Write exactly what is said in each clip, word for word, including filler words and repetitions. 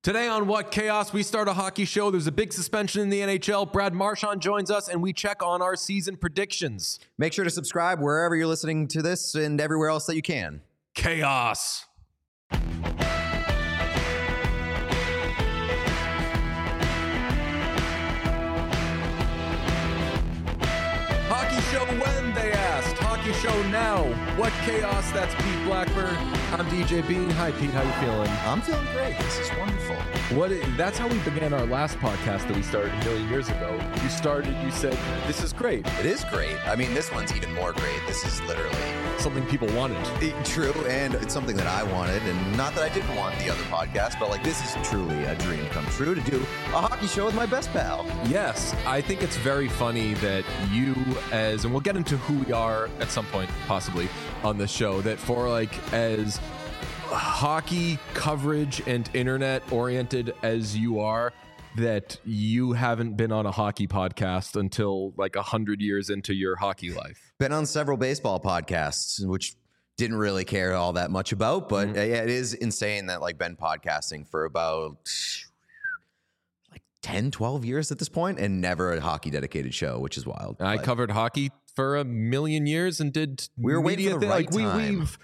Today on What Chaos, we start a hockey show. There's a big suspension in the N H L. Brad Marchand joins us, and we check on our season predictions. Make sure to subscribe wherever you're listening to this and everywhere else that you can. Chaos. Hockey show when, they asked. Hockey show now. What Chaos? That's Pete Blackburn. I'm D J Bean. Hi, Pete. How you feeling? I'm feeling great. This is wonderful. What? That's how we began our last podcast that we started a million years ago. You started, you said, this is great. It is great. I mean, this one's even more great. This is literally Something people wanted. it- true, and it's something that I wanted, and not that I didn't want the other podcast, but like this is truly a dream come true to do a hockey show with my best pal. Yes, I think it's very funny that you, as, and we'll get into who we are at some point, possibly, on the show, that for like as hockey coverage and internet oriented as you are, that you haven't been on a hockey podcast until like a hundred years into your hockey life. Been on several baseball podcasts, which didn't really care all that much about, but Mhm. uh, yeah, it is insane that like been podcasting for about like ten, twelve years at this point and never a hockey dedicated show, which is wild. I But covered hockey for a million years and did We were waiting media for the thi- right like we, time. we've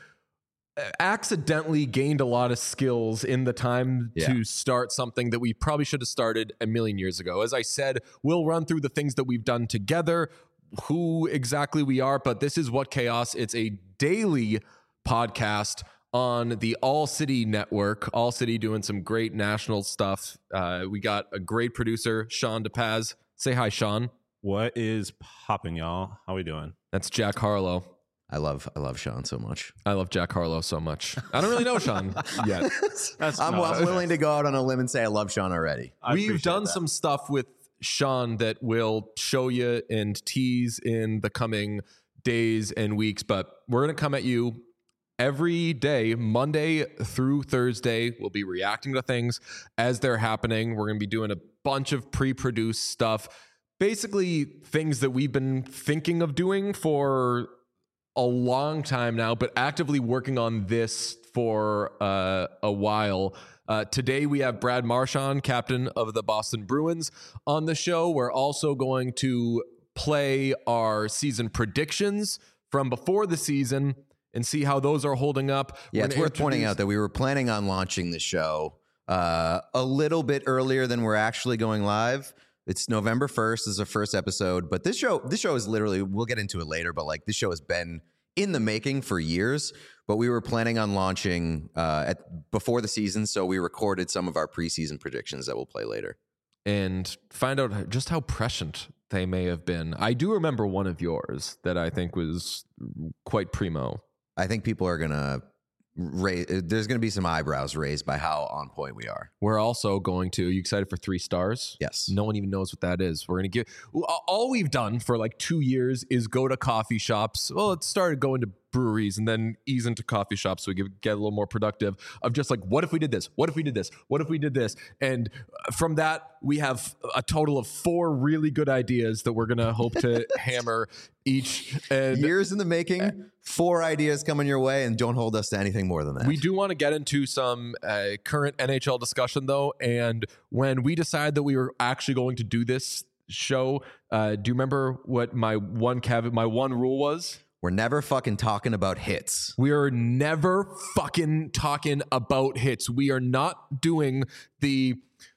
accidentally gained a lot of skills in the time Yeah. to start something that we probably should have started a million years ago. As I said, we'll run through the things that we've done together, who exactly we are, but this is What Chaos. It's a daily podcast on the All City Network. All City doing some great national stuff. Uh, we got a great producer, Sean DePaz. Say hi, Sean. What is popping, y'all? How we doing? That's Jack Harlow. I love I love Sean so much. I love Jack Harlow so much. I don't really know Sean yet. That's I'm, no, I'm willing to go out on a limb and say I love Sean already. I We've appreciate done that. some stuff with Sean that will show you and tease in the coming days and weeks, but we're going to come at you every day, Monday through Thursday. We'll be reacting to things as they're happening. We're going to be doing a bunch of pre-produced stuff, basically things that we've been thinking of doing for a long time now, but actively working on this for uh, a while. Uh, today we have Brad Marchand, captain of the Boston Bruins, on the show. We're also going to play our season predictions from before the season and see how those are holding up. Yeah, We're it's gonna worth pointing introduce- out that we were planning on launching the show uh, a little bit earlier than we're actually going live. It's November first is the first episode, but this show this show is literally, we'll get into it later, but like this show has been in the making for years, but we were planning on launching uh, at before the season, so we recorded some of our preseason predictions that we'll play later. and find out just how prescient they may have been. I do remember one of yours that I think was quite primo. I think people are gonna raise. There's gonna be some eyebrows raised by how on point we are. We're also going to, are you excited for three stars? Yes. No one even knows what that is. We're going to give, all we've done for like two years is go to coffee shops. Well, it started going to breweries and then ease into coffee shops so we get, get a little more productive of just like, what if we did this? What if we did this? What if we did this? And from that, we have a total of four really good ideas that we're going to hope to hammer each. And Years in the making, four ideas coming your way, and don't hold us to anything more than that. we do want to get into some uh, current N H L discussion, though. And when we decided that we were actually going to do this show, uh, do you remember what my one caveat, my one rule was? We're never fucking talking about hits. We are never fucking talking about hits. We are not doing the.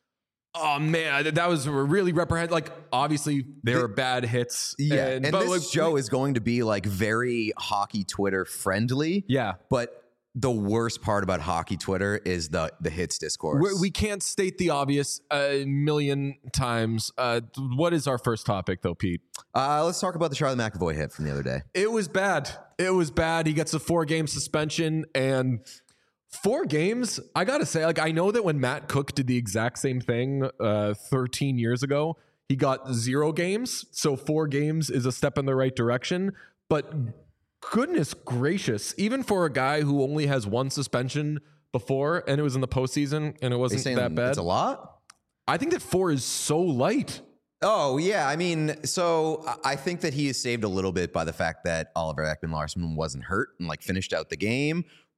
Oh man, that was really reprehend. Like, obviously, there The- are bad hits. Yeah, and, and but this like, show we- is going to be like very hockey Twitter friendly. yeah. But the worst part about hockey Twitter is the the hits discourse. We're, we can't state the obvious a million times. Uh, what is our first topic, though, Pete? uh, let's talk about the Charlie McAvoy hit from the other day. It was bad. It was bad. He gets a four game suspension, and four games. I gotta say, like, I know that when Matt Cook did the exact same thing uh, thirteen years ago, he got zero games. So four games is a step in the right direction. But goodness gracious, even for a guy who only has one suspension before, and it was in the postseason, and it Are you wasn't saying that bad. it's a lot? I think that four is so light. Oh, yeah. I mean, so I- I think that he is saved a little bit by the fact that Oliver Ekman Larsson wasn't hurt and like finished out the game.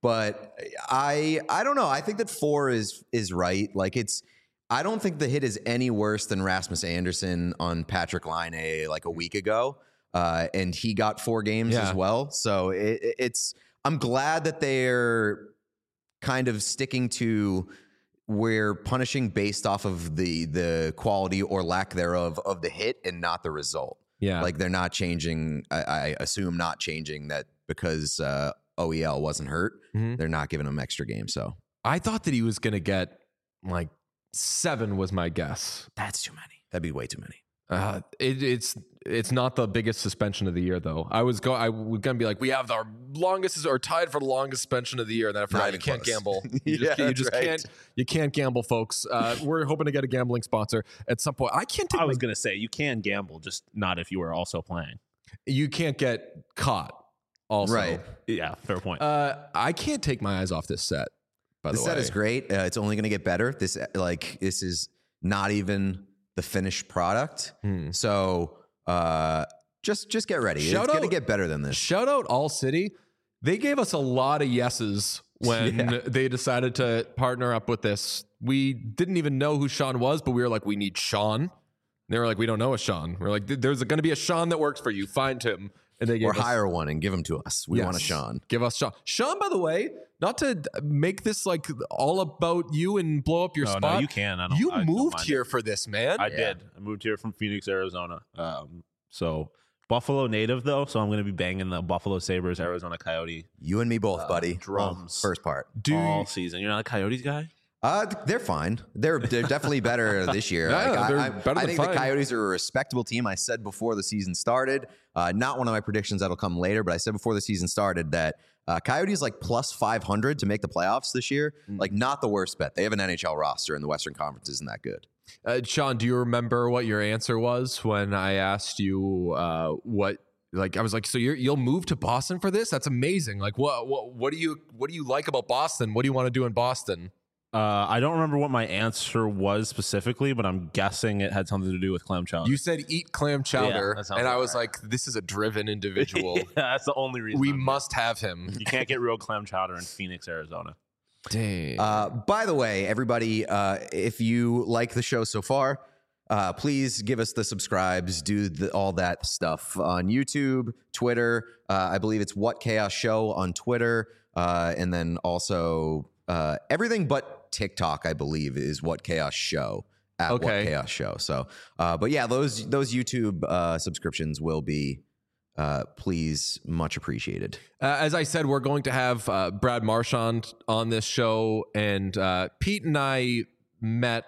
but I I don't know. I think that four is is right. Like it's. I don't think the hit is any worse than Rasmus Anderson on Patrick Laine like a week ago, uh, and he got four games Yeah. as well. So it, it's. I'm glad that they're kind of sticking to where punishing based off of the the quality or lack thereof of the hit and not the result. Yeah. Like they're not changing. I, I assume not changing that because uh, O E L wasn't hurt. Mhm. They're not giving him extra games. So I thought that he was going to get like seven was my guess. that's too many. That'd be way too many. Uh, it, it's it's not the biggest suspension of the year though. I was go I was gonna be like, we have our longest or tied for the longest suspension of the year. And then I forgot Not you even can't close. gamble. You Yeah, just, you that's just right. can't you can't gamble, folks. Uh, we're hoping to get a gambling sponsor at some point. I can't take I was my- gonna say you can gamble, just not if you were also playing. you can't get caught. Also, Right. Yeah, fair point. Uh, I can't take my eyes off this set. By The the, set way, is great. Uh, it's only going to get better. This like this is not even the finished product. Hmm. So uh, just just get ready. Shout it's going to out- get better than this. Shout out All City. They gave us a lot of yeses when Yeah. they decided to partner up with this. We didn't even know who Sean was, but we were like, we need Sean. They were like, we don't know a Sean. We're like, there's going to be a Sean that works for you. Find him. And they gave Or us, hire one and give them to us. We Yes. want a Sean. Give us Sean. Sean, by the way, not to make this like all about you and blow up your no, spot. no, you can. I don't, you I don't moved mind here it. for this, man. I Yeah. did. I moved here from Phoenix, Arizona. Um, so Buffalo native though, so I'm gonna be banging the Buffalo Sabres, Arizona Coyote You and me both, Uh, buddy. drums. Well, first part. Do all season. You're not a Coyotes guy? Uh, they're fine. They're they're definitely better this year. Yeah, Like, I- they're I, better I than think fine. the Coyotes are a respectable team. I said before the season started, uh, not one of my predictions that'll come later, but I said before the season started that uh, Coyotes like plus five hundred to make the playoffs this year. Mm. Like not the worst bet. They have an N H L roster and the Western Conference isn't that good. Uh, Sean, do you remember what your answer was when I asked you uh, what? Like I was like, so you're, you'll move to Boston for this? That's amazing. Like, what, what, what do you, what do you like about Boston? What do you want to do in Boston? Uh, I don't remember what my answer was specifically, but I'm guessing it had something to do with clam chowder. You said eat clam chowder, that sounds and I about was right. like, this is a driven individual. yeah, that's the only reason. We I'm here. must have him. You can't get real clam chowder in Phoenix, Arizona. Dang. Uh, by the way, everybody, uh, if you like the show so far, uh, please give us the subscribes, do the, all that stuff on YouTube, Twitter. Uh, I believe it's What Chaos Show on Twitter, uh, and then also uh, everything but TikTok. I believe is What Chaos Show at What Okay. Chaos Show. So, uh, but yeah, those those YouTube uh, subscriptions will be. Uh, please, much appreciated. Uh, as I said, we're going to have uh, Brad Marchand on this show, and uh, Pete and I met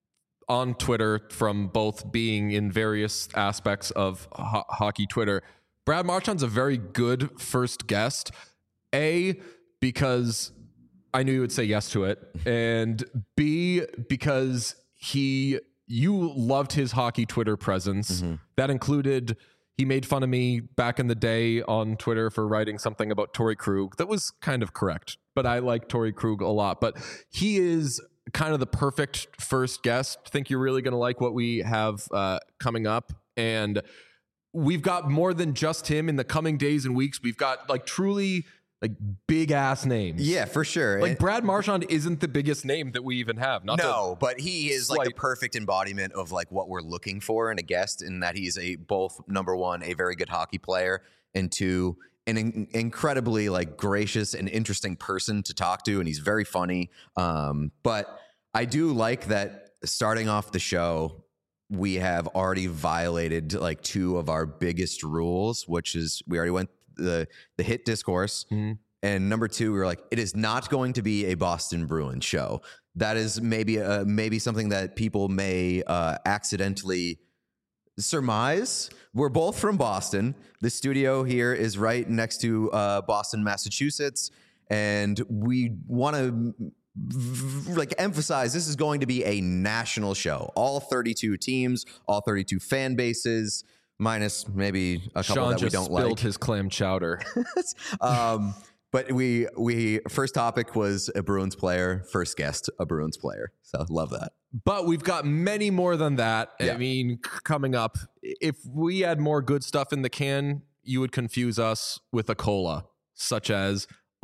on Twitter from both being in various aspects of ho- hockey Twitter. Brad Marchand's a very good first guest. A, because I knew you would say yes to it, and B, because he you loved his hockey Twitter presence. That included he made fun of me back in the day on Twitter for writing something about Torrey Krug. That was kind of correct, but I like Torrey Krug a lot. But he is kind of the perfect first guest. I think you're really going to like what we have uh, coming up. And we've got more than just him in the coming days and weeks. We've got like truly like big ass names. Yeah, for sure. Like And- Brad Marchand isn't the biggest name that we even have. Not no, but he is like the slight- perfect embodiment of like what we're looking for in a guest, in that he's a both number one, a very good hockey player, and two, an in- incredibly like gracious and interesting person to talk to, and he's very funny. Um, but I do like that starting off the show, we have already violated like two of our biggest rules, which is we already went the the hit discourse. Mhm. And number two, we were like, it is not going to be a Boston Bruins show. That is maybe uh, maybe something that people may uh, accidentally surmise. We're both from Boston. The studio here is right next to uh, Boston, Massachusetts, and we want to like emphasize this is going to be a national show. All thirty-two teams, all thirty-two fan bases, minus maybe a couple Sean that we just don't spilled like. his clam chowder. um, but we we first topic was a Bruins player, first guest a Bruins player. So love that. But we've got many more than that. Yeah. I mean, c- coming up, if we had more good stuff in the can, you would confuse us with a cola, such as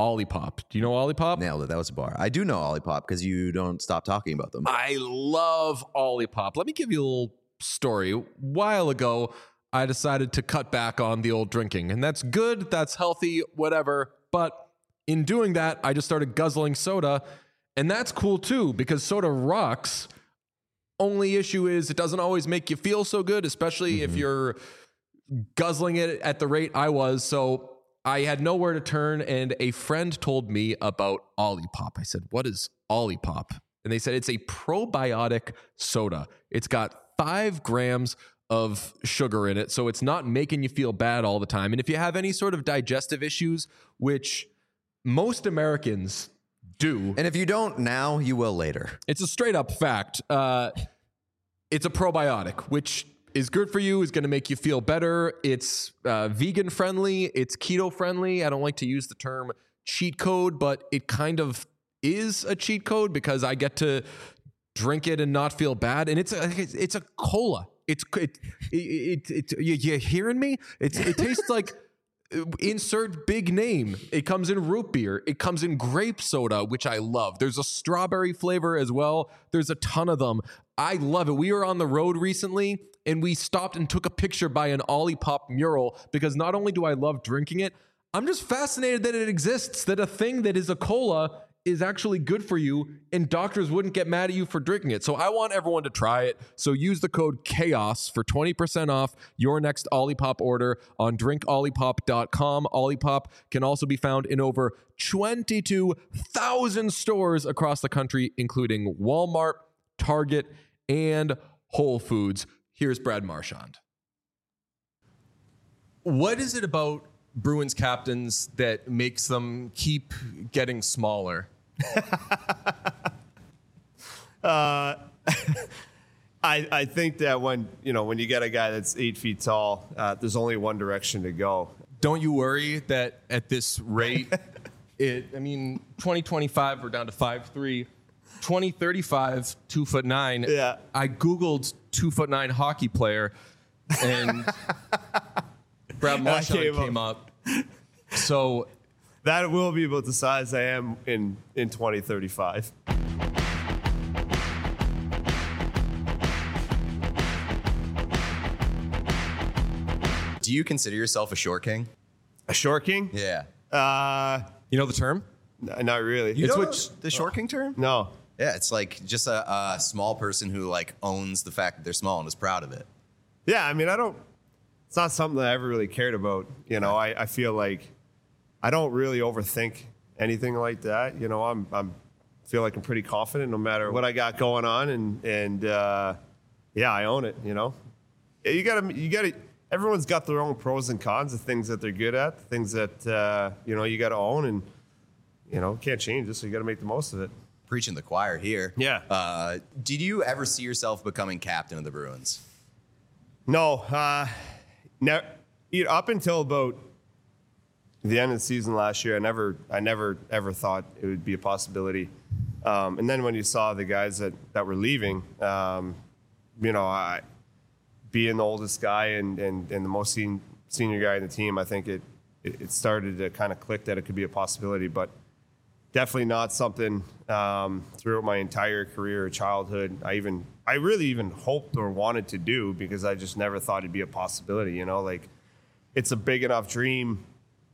Olipop. Do you know Olipop? Nailed it. That was a bar. I do know Olipop because you don't stop talking about them. I love Olipop. Let me give you a little story. A while ago, I decided to cut back on the old drinking, and that's good. That's healthy, whatever. But in doing that, I just started guzzling soda, and that's cool too because soda rocks. Only issue is it doesn't always make you feel so good, especially mm-hmm. if you're guzzling it at the rate I was. So I had nowhere to turn, and a friend told me about Olipop. I said, what is Olipop? And they said it's a probiotic soda. It's got five grams of sugar in it, so it's not making you feel bad all the time. And if you have any sort of digestive issues, which most Americans do. And if you don't now, you will later. It's a straight up fact. Uh, it's a probiotic, which is good for you, is going to make you feel better. It's uh, vegan friendly. It's keto friendly. I don't like to use the term cheat code, but it kind of is a cheat code because I get to drink it and not feel bad. And it's a, it's a cola. It's it, it, it, it you, you hearing me? It's, it tastes like insert big name. It comes in root beer. It comes in grape soda, which I love. There's a strawberry flavor as well. There's a ton of them. I love it. We were on the road recently and we stopped and took a picture by an Olipop mural because not only do I love drinking it, I'm just fascinated that it exists, that a thing that is a cola is actually good for you and doctors wouldn't get mad at you for drinking it. So I want everyone to try it. So use the code CHAOS for twenty percent off your next Olipop order on drink olipop dot com. Olipop can also be found in over twenty-two thousand stores across the country, including Walmart, Target, and Whole Foods. Here's Brad Marchand. What is it about Bruins captains that makes them keep getting smaller? uh, I I think that when you know when you get a guy that's eight feet tall, uh, there's only one direction to go. Don't you worry that at this rate, it? I mean, twenty twenty-five we're down to five three. twenty thirty-five, two foot nine. Yeah. I googled two foot nine hockey player, and Brad Marchand came, came up. up. So that will be about the size I am in in twenty thirty-five. Do you consider yourself a short king? A short king? Yeah. Uh, you know the term? N- not really. You it's know what the short king term? No. Yeah, it's like just a, a small person who like owns the fact that they're small and is proud of it. Yeah, I mean, I don't. It's not something that I ever really cared about. You know, I, I feel like I don't really overthink anything like that. You know, I'm I'm feel like I'm pretty confident no matter what I got going on, and and uh, yeah, I own it. You know, you gotta you gotta. Everyone's got their own pros and cons, the things that they're good at, the things that uh, you know you got to own, and you know can't change it, so you got to make the most of it. Preaching the choir here. Yeah. Uh, did you ever see yourself becoming captain of the Bruins? No. Uh, Now, you know, up until about the end of the season last year, I never, I never, ever thought it would be a possibility. Um, and then when you saw the guys that, that were leaving, um, you know, I, being the oldest guy and, and, and the most sen- senior guy in the team, I think it, it, it started to kind of click that it could be a possibility. But definitely not something um, throughout my entire career or childhood. I even, I really even hoped or wanted to do because I just never thought it'd be a possibility. You know, like it's a big enough dream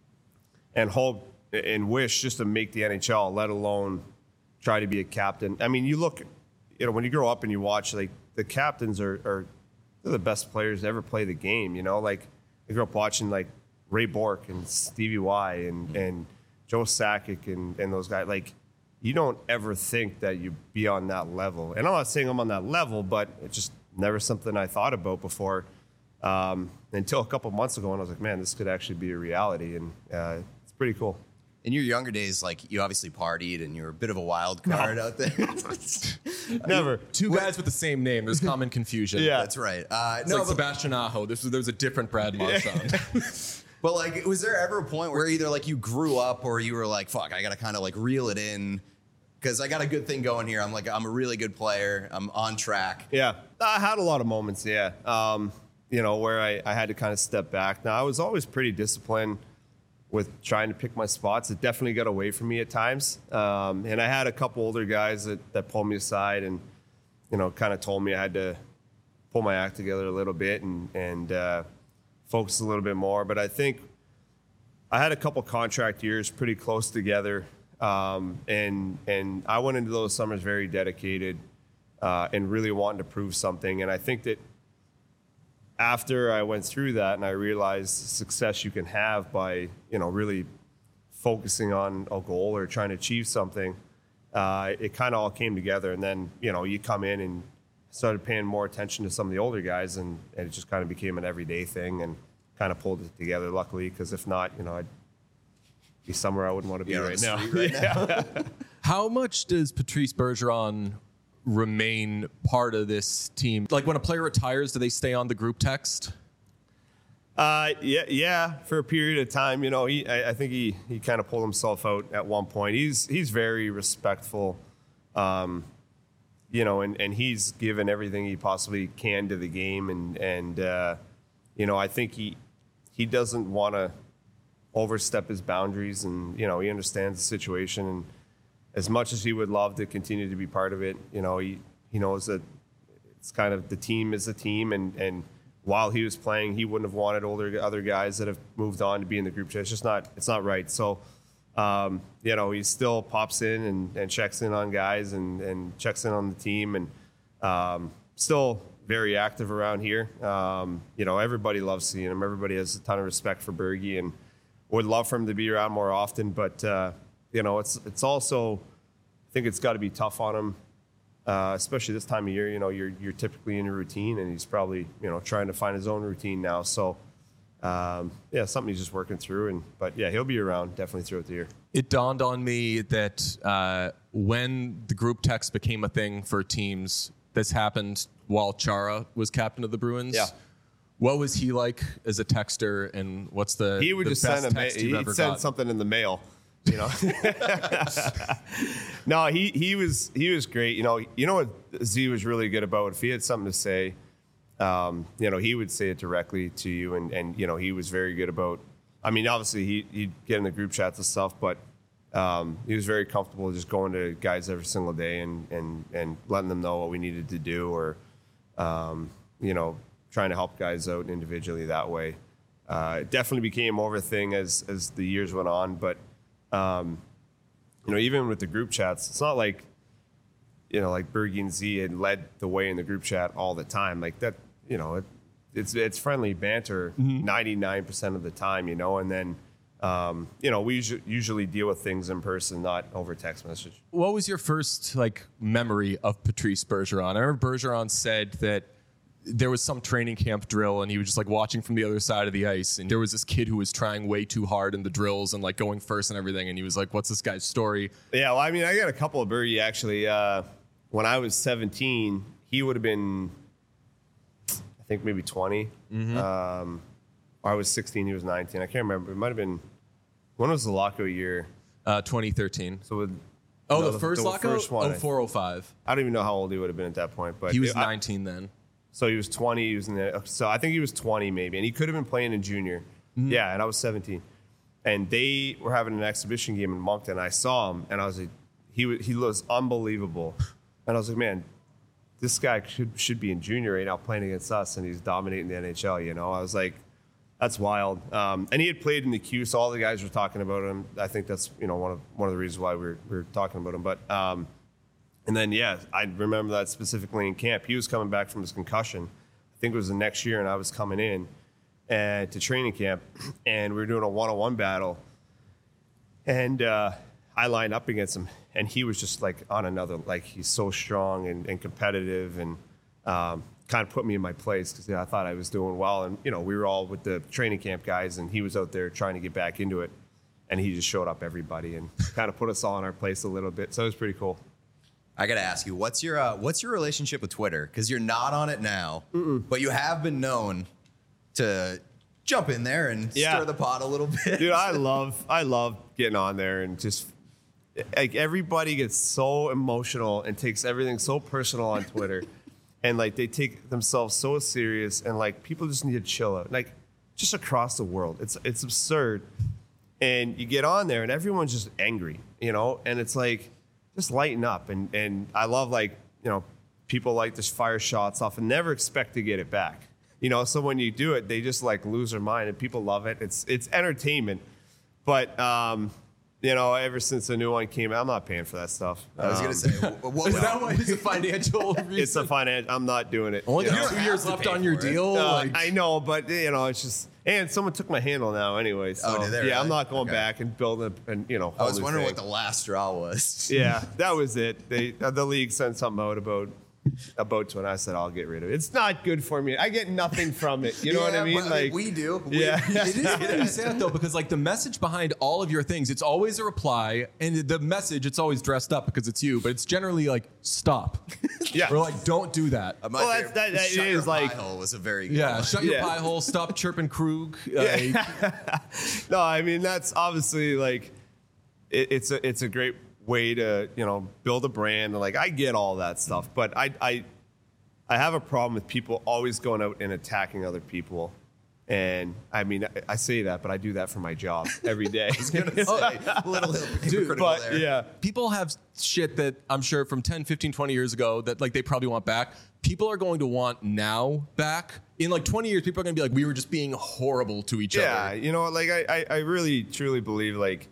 and hope and wish just to make the N H L, let alone try to be a captain. I mean, you look, you know, when you grow up and you watch, like the captains are, are they're the best players to ever play the game. You know, like I grew up watching like Ray Bourque and Stevie Y and and Joe Sakic and, and those guys. Like, you don't ever think that you'd be on that level. And I'm not saying I'm on that level, but it's just never something I thought about before um, until a couple months ago. And I was like, man, this could actually be a reality. And uh, it's pretty cool. In your younger days, like you obviously partied and you were a bit of a wild card no. out there. Never. Two guys with the same name. There's common confusion. Yeah. That's right. Uh, It's no, like but- Sebastian Aho. This was, there was a different Brad Marchand. But like, was there ever a point where either like you grew up or you were like, fuck, I got to kind of like reel it in because I got a good thing going here. I'm like, I'm a really good player. I'm on track. Yeah. I had a lot of moments, yeah, um, you know, where I, I had to kind of step back. Now, I was always pretty disciplined. with trying to pick my spots. It definitely got away from me at times. Um, and I had a couple older guys that, that pulled me aside and, you know, kind of told me I had to pull my act together a little bit and, and uh, focus a little bit more. But I think I had a couple contract years pretty close together. Um, and, and I went into those summers very dedicated uh, and really wanting to prove something. And I think that after I went through that and I realized the success you can have by, you know, really focusing on a goal or trying to achieve something, uh, it kind of all came together. And then, you know, you come in and started paying more attention to some of the older guys, and, and it just kind of became an everyday thing and kind of pulled it together, luckily, because if not, you know, I'd be somewhere I wouldn't want to be You're on right the now. street right now. How much does Patrice Bergeron remain part of this team? Like when a player retires, do they stay on the group text? Uh, yeah, yeah. For a period of time, you know, he, I, I think he, he kind of pulled himself out at one point. He's he's very respectful, um, you know, and, and he's given everything he possibly can to the game, and and uh, you know, I think he he doesn't want to overstep his boundaries, and you know, he understands the situation, and as much as he would love to continue to be part of it, you know, he he knows that it's kind of the team is a team, and and. While he was playing, he wouldn't have wanted older other guys that have moved on to be in the group chat. It's just not, it's not right. So, um, you know, he still pops in and, and checks in on guys and, and checks in on the team, and um, still very active around here. Um, you know, everybody loves seeing him. Everybody has a ton of respect for Bergie and would love for him to be around more often. But, uh, you know, it's it's also, I think it's got to be tough on him. Uh, especially this time of year, you know, you're you're typically in a routine, and he's probably, you know, trying to find his own routine now. So, um, yeah, something he's just working through. And but yeah, he'll be around definitely throughout the year. It dawned on me that uh, when the group text became a thing for teams, this happened while Chara was captain of the Bruins. Yeah. What was he like as a texter, and what's the He would the just best send a ma- text you've he'd ever send got? something in the mail. You know, no, he he was he was great. You know, you know what Z was really good about. If he had something to say, um, you know, he would say it directly to you, and and you know, he was very good about. I mean, obviously he he'd get in the group chats and stuff, but um, he was very comfortable just going to guys every single day and and and letting them know what we needed to do, or um, you know, trying to help guys out individually that way. Uh, it definitely became more of a thing as as the years went on, but. Um, you know, even with the group chats, it's not like, you know, like Bergie and Z had led the way in the group chat all the time. Like that, you know, it, it's it's friendly banter ninety-nine percent of the time, you know, and then, um, you know, we usually, usually deal with things in person, not over text message. What was your first like memory of Patrice Bergeron? I remember Bergeron said that there was some training camp drill, and he was just like watching from the other side of the ice, and there was this kid who was trying way too hard in the drills and like going first and everything, and he was like, what's this guy's story? Yeah, well, I mean, I got a couple of Bergie actually. Uh, when I was seventeen, he would have been, I think maybe twenty. Mm-hmm. Um, or I was sixteen, he was nineteen. I can't remember. It might have been, when was the lockout year? Uh, twenty thirteen. So with, Oh, no, the first the lockout? first one. oh four oh five. I don't even know how old he would have been at that point, but He was it- I- nineteen then. So he was twenty. He was in the, so I think he was twenty maybe, and he could have been playing in junior. Mm-hmm. Yeah, and I was seventeen, and they were having an exhibition game in Moncton. I saw him, and I was like, he was, he was unbelievable, and I was like, man, this guy should should be in junior right now playing against us, and he's dominating the N H L. You know, I was like, that's wild. Um, and he had played in the Q, so all the guys were talking about him. I think that's, you know, one of one of the reasons why we we're, we're talking about him. But um, and then, yeah, I remember that specifically in camp. He was coming back from his concussion. I think it was the next year, and I was coming in uh, to training camp, and we were doing a one-on-one battle. And uh, I lined up against him, and he was just like on another, like he's so strong and, and competitive, and um, kind of put me in my place because yeah, I thought I was doing well. And, you know, we were all with the training camp guys, and he was out there trying to get back into it. And he just showed up everybody and kind of put us all in our place a little bit. So it was pretty cool. I gotta ask you, what's your uh, what's your relationship with Twitter? Because you're not on it now, Mm-mm. but you have been known to jump in there and Yeah. stir the pot a little bit. Dude, I love I love getting on there and just like everybody gets so emotional and takes everything so personal on Twitter, and like they take themselves so serious, and like people just need to chill out. Like just across the world, it's it's absurd. and you get on there and everyone's just angry, you know, and it's like, just lighten up. And, and I love, like, you know, people like to fire shots off and never expect to get it back, you know, so when you do it, they just like lose their mind and people love it. It's, it's entertainment. But, um, you know, ever since the new one came out, I'm not paying for that stuff. I was Um, gonna say, what, what, Is that why it's a financial reason? it's a finance. I'm not doing it. Only you got know? two have years to left pay on your for it. deal. Uh, like, I know, but you know, it's just, and someone took my handle now anyway. So Oh, did they yeah, really? I'm not going Okay. back and building a, and you know. I whole was new wondering thing. what the last straw was. Yeah, that was it. They uh, the league sent something out about about to, and I said I'll get rid of it. It's not good for me. I get nothing from it. You know what I Yeah, mean? but, Like we do. We- Yeah. It is funny you say that though, because like the message behind all of your things, it's always a reply, and the message it's always dressed up because it's you, but it's generally like stop. Yeah. Or like don't do that. Uh, my Well, that's- favorite- that- that Shut is Your like- Pie Hole was a very good Yeah, one. shut your Yeah. pie hole. Stop chirping Krug. Like, no, I mean that's obviously like it, it's a it's a great way to you know build a brand. Like I get all that stuff, but I I I have a problem with people always going out and attacking other people. And I mean, I, I say that, but I do that for my job every day. Say, a little hypocritical but there. yeah, people have shit that I'm sure from ten, fifteen, twenty years ago that like they probably want back. People are going to want now back. In like twenty years, people are going to be like, we were just being horrible to each yeah, other. you know, like I, I, I really truly believe like,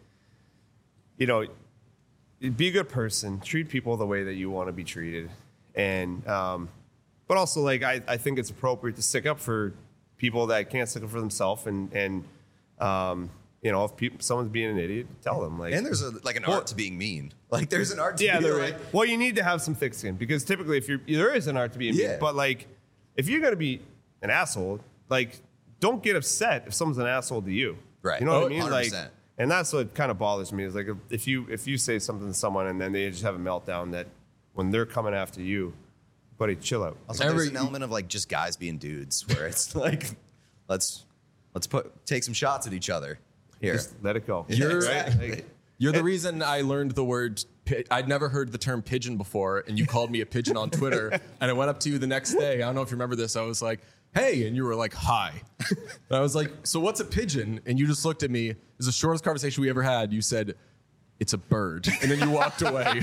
you know, be a good person, treat people the way that you want to be treated, and um, but also like I, I think it's appropriate to stick up for people that can't stick up for themselves, and and um, you know, if people, someone's being an idiot, tell them like. And there's a, like an Well- art to being mean. Like there's an art to yeah, being there like, is. Well, you need to have some thick skin because typically, if you're there is an art to being Yeah. mean, but like if you're gonna be an asshole, like don't get upset if someone's an asshole to you. Right. You know what Oh, I mean? one hundred Like, percent. and that's what kind of bothers me is like if- if you if you say something to someone and then they just have a meltdown that when they're coming after you, buddy, chill out. Also, Every- there's an element of like just guys being dudes where it's like, let's let's put take some shots at each other here. Just let it go. Yeah, You're- exactly. Like, You're the reason I learned the word. pi- I'd never heard the term pigeon before, and you called me a pigeon on Twitter. And I went up to you the next day. I don't know if you remember this. I was like, "Hey," and you were like, "Hi." And I was like, "So what's a pigeon?" And you just looked at me. It was the shortest conversation we ever had. You said, "It's a bird," and then you walked away.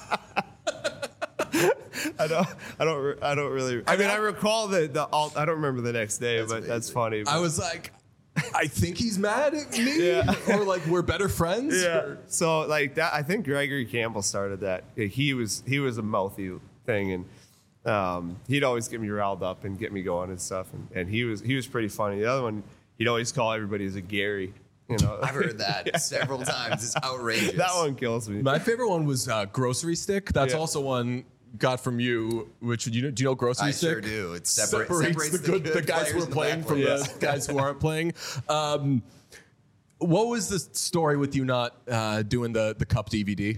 I don't, I don't, re- I don't really. I mean, I recall the the. Alt, I don't remember the next day, but that's funny. I was like, "I think he's mad at me," Yeah. or like we're better friends. Yeah. or- So like that, I think Gregory Campbell started that. He was he was a mouthy thing, and um, he'd always get me riled up and get me going and stuff. And, and he was he was pretty funny. The other one, he'd always call everybody as a Gary. You know, I've heard that several times. It's outrageous. that one kills me. My favorite one was uh, grocery stick. That's Yeah. also one got from you. Which you know, do you know grocery I stick? sure do. It separate, separates, separates, the good, the, guys who players are and the playing bad from players. the guys who aren't playing. Um, what was the story with you not uh, doing the the cup D V D?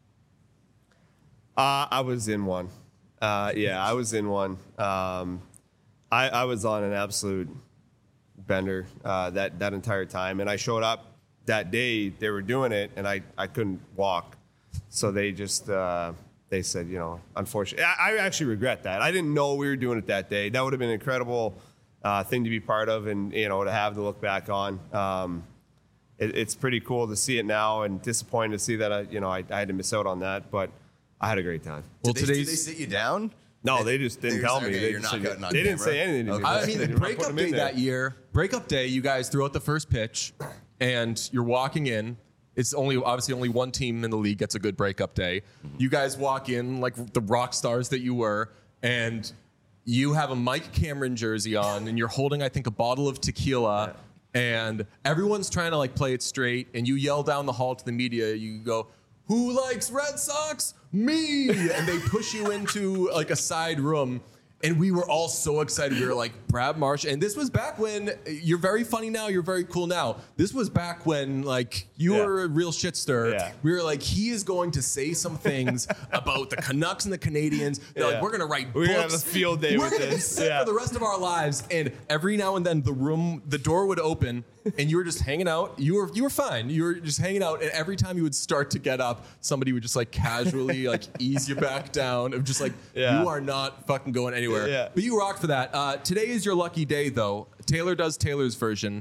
Uh, I was in one. Uh, yeah, I was in one. Um, I, I was on an absolute bender uh, that that entire time, and I showed up that day. They were doing it, and I, I couldn't walk, so they just uh, they said, you know, unfortunately, I, I actually regret that. I didn't know we were doing it that day. That would have been an incredible uh, thing to be part of, and you know, to have to look back on. Um, it, it's pretty cool to see it now, and disappointed to see that I, you know, I, I had to miss out on that, but I had a great time. Well, Did they, did they today's. sit you down? No, they just didn't They tell just- me. okay, They, you're just not said- cutting on they didn't camera. say anything to me. Okay. I They mean, didn't put breakup them in day there. that year. Breakup day, you guys threw out the first pitch, and you're walking in. It's only obviously only one team in the league gets a good breakup day. You guys walk in like the rock stars that you were, and you have a Mike Cameron jersey on, and you're holding, I think, a bottle of tequila, and everyone's trying to like play it straight, and you yell down the hall to the media. You go, "Who likes Red Sox? Me!" And they push you into like a side room. And we were all so excited. We were like, Brad Marsh. And this was back when you're very funny now. You're very cool now. This was back when like you Yeah. were a real shit stir. Yeah. We were like, he is going to say some things about the Canucks and the Canadians. They're Yeah. like, we're going to write We're books. gonna have a field day We're with gonna be this. set Yeah. for the rest of our lives. And every now and then the room, the door would open and you were just hanging out. You were you were fine. You were just hanging out. And every time you would start to get up, somebody would just like casually like ease you back down. Of just like, Yeah. you are not fucking going anywhere. Yeah. But you rocked for that. Uh, today is your lucky day, though. Taylor does Taylor's version.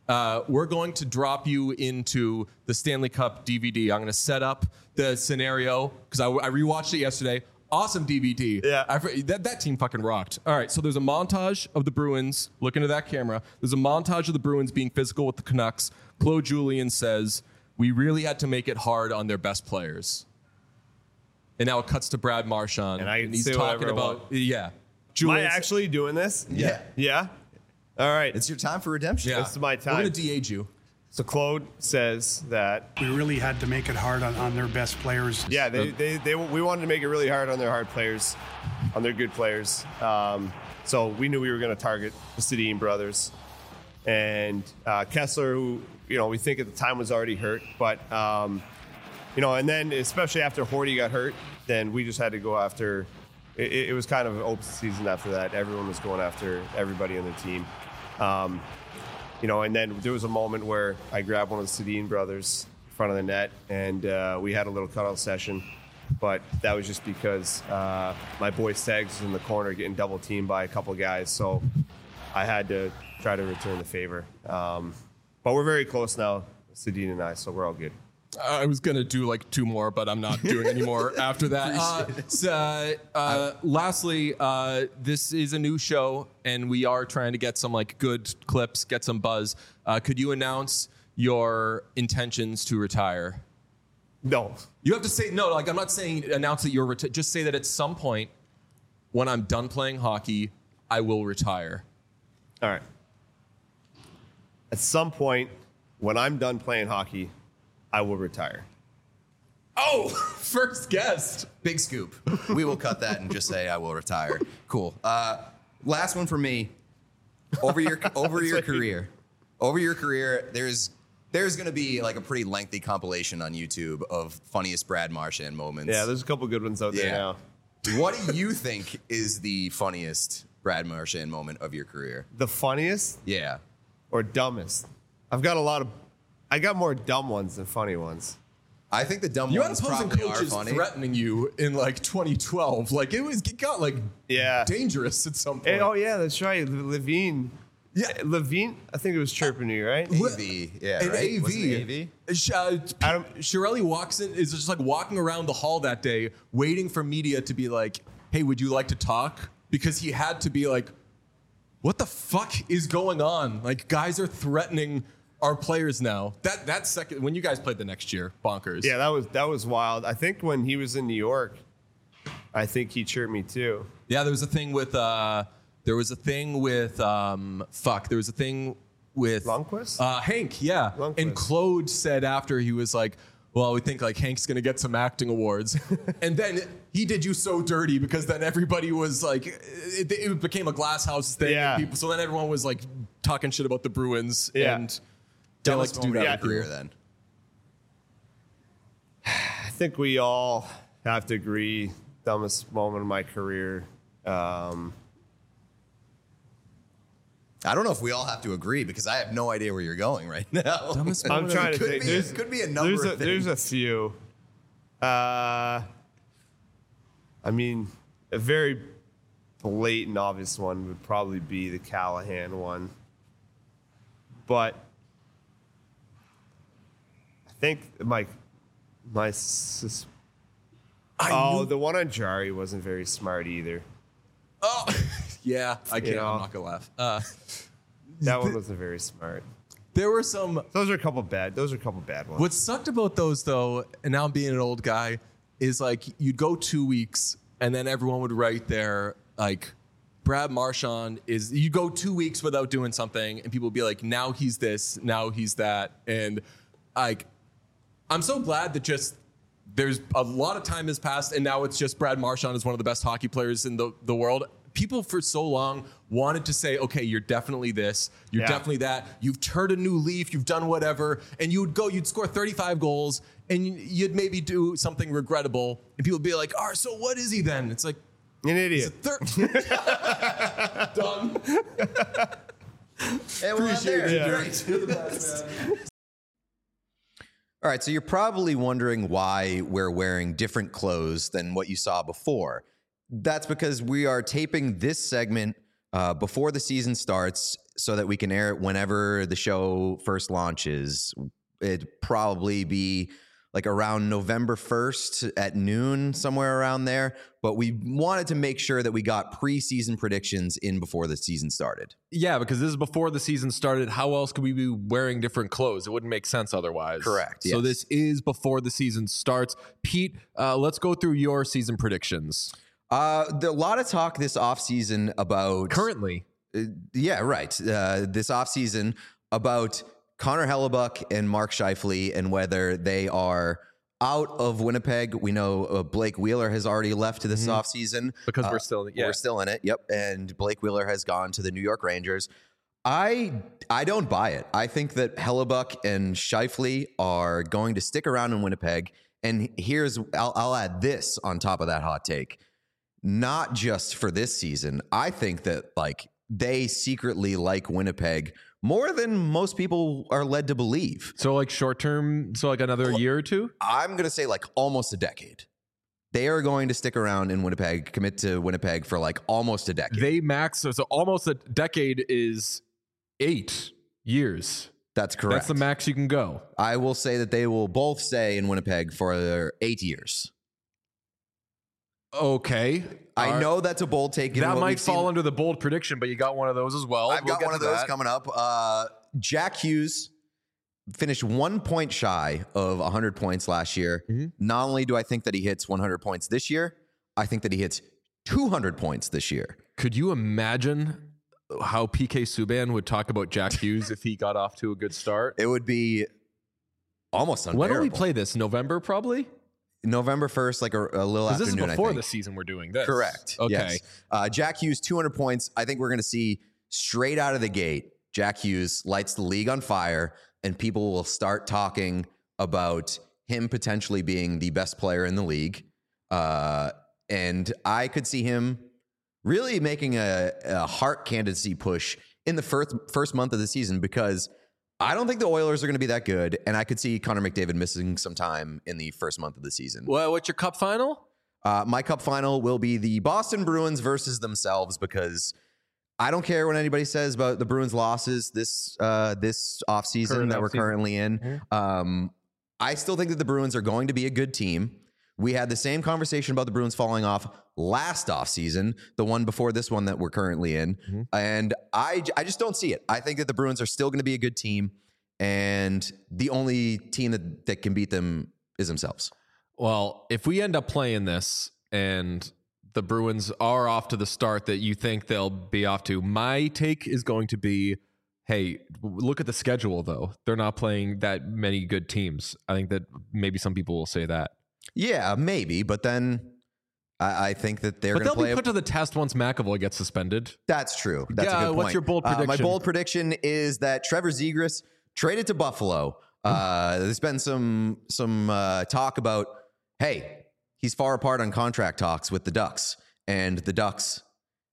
Uh, we're going to drop you into the Stanley Cup D V D. I'm going to set up the scenario because I, I rewatched it yesterday. Awesome D V D. Yeah. I, that, that team fucking rocked. All right, so there's a montage of the Bruins. Look into that camera. There's a montage of the Bruins being physical with the Canucks. Claude Julien says, we really had to make it hard on their best players. And now it cuts to Brad Marchand. And I can he's say talking whatever I about, want. yeah. Am I Julien- actually doing this? Yeah. Yeah? All right. It's your time for redemption. Yeah. This is my time. We're going to de-age you. So Claude says that, We really had to make it hard on, on their best players. yeah, they, they, they, we wanted to make it really hard on their hard players, on their good players. Um, so we knew we were going to target the Sedin brothers. And uh, Kessler, who, you know, we think at the time was already hurt. But, um, you know, and then especially after Horty got hurt, then we just had to go after, it, it was kind of an open season after that. Everyone was going after everybody on the team. Um, You know, and then there was a moment where I grabbed one of the Sedin brothers in front of the net, and uh, we had a little cutout session. But that was just because uh, my boy Segs was in the corner getting double teamed by a couple guys, so I had to try to return the favor. Um, but we're very close now, Sedin and I, so we're all good. I was going to do like two more, but I'm not doing any more after that. Uh, so, uh, lastly, uh, this is a new show, and we are trying to get some like good clips, get some buzz. Uh, could you announce your intentions to retire? No. You have to say, no, like I'm not saying announce that you're reti- just say that at some point when I'm done playing hockey, I will retire. All right. At some point, when I'm done playing hockey, I will retire. Oh, first guest. Big scoop. We will cut that and just say I will retire. Cool. Uh, last one for me. Over your over your career, over your career, there's there's going to be like a pretty lengthy compilation on YouTube of funniest Brad Marchand moments. Yeah, there's a couple good ones out there Yeah. now. What do you think is the funniest Brad Marchand moment of your career? The funniest Yeah. or dumbest? I've got a lot of, I got more dumb ones than funny ones. I think the dumb You had ones opposing probably are coaches funny. threatening you in like twenty twelve. Like it was, it got like Yeah. dangerous at some point. Hey, oh yeah, that's right. Le- Levine. Yeah. Levine. I think it was chirping you, right? A V, yeah, An right? A Wasn't V. it A V? Sh- uh, Adam- Shirelli walks in, is just like walking around the hall that day, waiting for media to be like, "Hey, would you like to talk?" Because he had to be like, "What the fuck is going on? Like, guys are threatening our players now." That that second when you guys played the next year, bonkers. Yeah, that was that was wild. I think when he was in New York, I think he chirped me too. Yeah, there was a thing with uh, there was a thing with um, fuck. There was a thing with Lundqvist? Uh, Hank, yeah. Lundqvist. And Claude said after he was like, "Well, we think like Hank's gonna get some acting awards," and then he did you so dirty because then everybody was like, it, it became a glass house thing. Yeah. And people, so then everyone was like talking shit about the Bruins. Yeah. And they like Dumbest to do moment that. of your career then. I think we all have to agree. Dumbest moment of my career. Um, I don't know if we all have to agree because I have no idea where you're going right now. Dumbest I'm moment trying to could think. be- There's, could be a number there's of a, There's a things. few. Uh, I mean, a very blatant, obvious one would probably be the Callahan one. But I think my my sus- I oh knew- the one on Jari wasn't very smart either. Oh, yeah. I can't. know. I'm not gonna laugh. Uh, That one wasn't very smart. there were some. Those are a couple bad. Those are a couple bad ones. What sucked about those though, and now I'm being an old guy, is like you'd go two weeks and then everyone would write there like Brad Marchand is you go two weeks without doing something and people would be like, now he's this, now he's that. And like I'm so glad that just there's a lot of time has passed and now it's just Brad Marchand is one of the best hockey players in the, the world. People for so long wanted to say, okay, you're definitely this, you're Yeah. definitely that. You've turned a new leaf, you've done whatever, and you would go, you'd score thirty-five goals, and you'd maybe do something regrettable, and people would be like, "Oh, so what is he then?" It's like An he's a idiot. third. Done. Hey, we're not there. Yeah. Great. All right, so you're probably wondering why we're wearing different clothes than what you saw before. That's because we are taping this segment uh, before the season starts so that we can air it whenever the show first launches. It'd probably be like around November first at noon, somewhere around there. But we wanted to make sure that we got preseason predictions in before the season started. Yeah, because this is before the season started. How else could we be wearing different clothes? It wouldn't make sense otherwise. Correct, So yes. this is before the season starts. Pete, uh, let's go through your season predictions. Uh, there, a lot of talk this offseason about... Currently. Uh, yeah, right. Uh, this offseason about Connor Hellebuck and Mark Scheifele and whether they are out of Winnipeg. We know uh, Blake Wheeler has already left this Mhm. offseason. Because Uh, we're still, yeah. We're still in it. Yep. And Blake Wheeler has gone to the New York Rangers. I I don't buy it. I think that Hellebuck and Scheifele are going to stick around in Winnipeg. And here's I'll, I'll add this on top of that hot take. Not just for this season. I think that like they secretly like Winnipeg more than most people are led to believe. So like short term, so like another year or two? I'm going to say like almost a decade. They are going to stick around in Winnipeg, commit to Winnipeg for like almost a decade. They max, so, so almost a decade is eight years. That's correct. That's the max you can go. I will say that they will both stay in Winnipeg for eight years. Okay. I All right. know that's a bold take. given That what might we've seen. fall under the bold prediction, but you got one of those as well. I've We'll got get one of to those that. coming up. Uh, Jack Hughes finished one point shy of one hundred points last year. Mm-hmm. Not only do I think that he hits one hundred points this year, I think that he hits two hundred points this year. Could you imagine how P K Subban would talk about Jack Hughes if he got off to a good start? It would be almost When unbearable. do we play this? November, probably? November first, like a, a little Because afternoon, this is before I think. the season we're doing this. Correct. Okay. Yes. Uh, Jack Hughes, two hundred points. I think we're going to see straight out of the gate, Jack Hughes lights the league on fire, and people will start talking about him potentially being the best player in the league. Uh, and I could see him really making a, a Hart candidacy push in the first, first month of the season because I don't think the Oilers are going to be that good, and I could see Connor McDavid missing some time in the first month of the season. Well, what's your cup final? Uh, my cup final will be the Boston Bruins versus themselves because I don't care what anybody says about the Bruins' losses this uh, this offseason Current that we're offseason. currently in. Mm-hmm. Um, I still think that the Bruins are going to be a good team. We had the same conversation about the Bruins falling off last offseason, the one before this one that we're currently in. Mm-hmm. And I, I just don't see it. I think that the Bruins are still going to be a good team. And the only team that, that can beat them is themselves. Well, if we end up playing this and the Bruins are off to the start that you think they'll be off to, my take is going to be, hey, look at the schedule, though. They're not playing that many good teams. I think that maybe some people will say that. Yeah, maybe. But then I, I think that they're But going to they'll play. be a- put to the test once McAvoy gets suspended. That's true. That's Yeah, a good point. what's your bold Uh, my prediction? bold prediction is that Trevor Zegras traded to Buffalo. Uh, there's been some some uh, talk about, hey, he's far apart on contract talks with the Ducks, and the Ducks,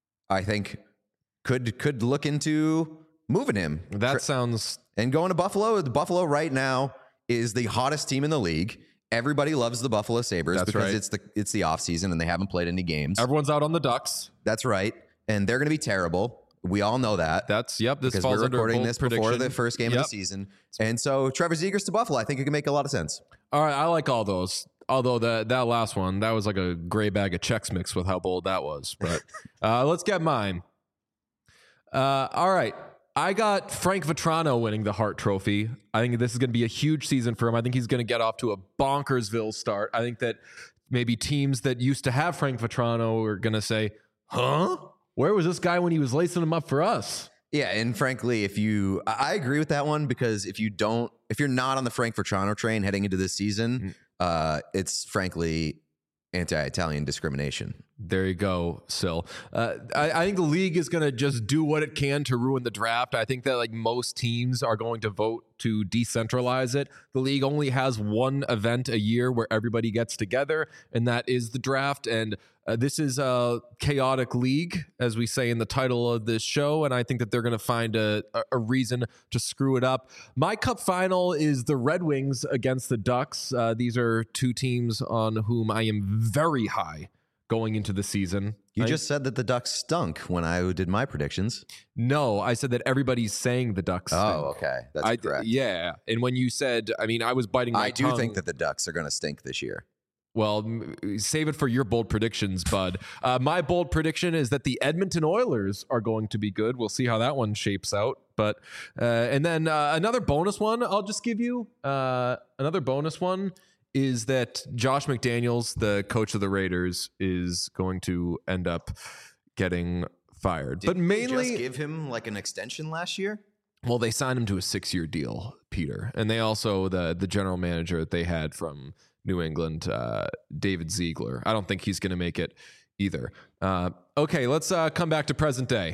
I think, could could look into moving him. That Tra- sounds... and going to Buffalo. The Buffalo right now is the hottest team in the league. Everybody loves the Buffalo Sabres That's because right. it's the it's the offseason and they haven't played any games. Everyone's out on the Ducks. That's right. And they're going to be terrible. We all know that. That's, yep, this Because falls we're under a recording bold this prediction. before the first game Yep. of the season. And so Trevor Zegras to Buffalo, I think it can make a lot of sense. All right, I like all those. Although that that last one, that was like a gray bag of checks mix with how bold that was. But uh, let's get mine. Uh, all right. I got Frank Vetrano winning the Hart Trophy. I think this is going to be a huge season for him. I think he's going to get off to a bonkersville start. I think that maybe teams that used to have Frank Vetrano are going to say, huh? Where was this guy when he was lacing him up for us? Yeah, and frankly, if you, I I agree with that one because if you don't, if you're not on the Frank Vetrano train heading into this season, uh, it's frankly anti-Italian discrimination. There you go, Sil. Uh, I, I think the league is going to just do what it can to ruin the draft. I think that like most teams are going to vote to decentralize it. The league only has one event a year where everybody gets together, and that is the draft. And uh, this is a chaotic league, as we say in the title of this show. And I think that they're going to find a, a reason to screw it up. My cup final is the Red Wings against the Ducks. Uh, these are two teams on whom I am very high going into the season. You I- just said that the Ducks stunk when I did my predictions. no, I said that everybody's saying the Ducks. stink. Oh, okay. That's I, correct. Yeah, and when you said, I mean, I was biting my I do tongue. think that the Ducks are going to stink this year. Well, m- save it for your bold predictions, bud. Uh, my bold prediction is that the Edmonton Oilers are going to be good. We'll see how that one shapes out. But uh, and then uh, another bonus one I'll just give you. Uh, another bonus one is that Josh McDaniels, the coach of the Raiders, is going to end up getting fired. but Didn't they mainly, just give him like an extension last year. well, they signed him to a six-year deal, Peter, and they also the the general manager that they had from New England, uh, David Ziegler. I don't think he's going to make it either. Uh, okay, let's uh, come back to present day.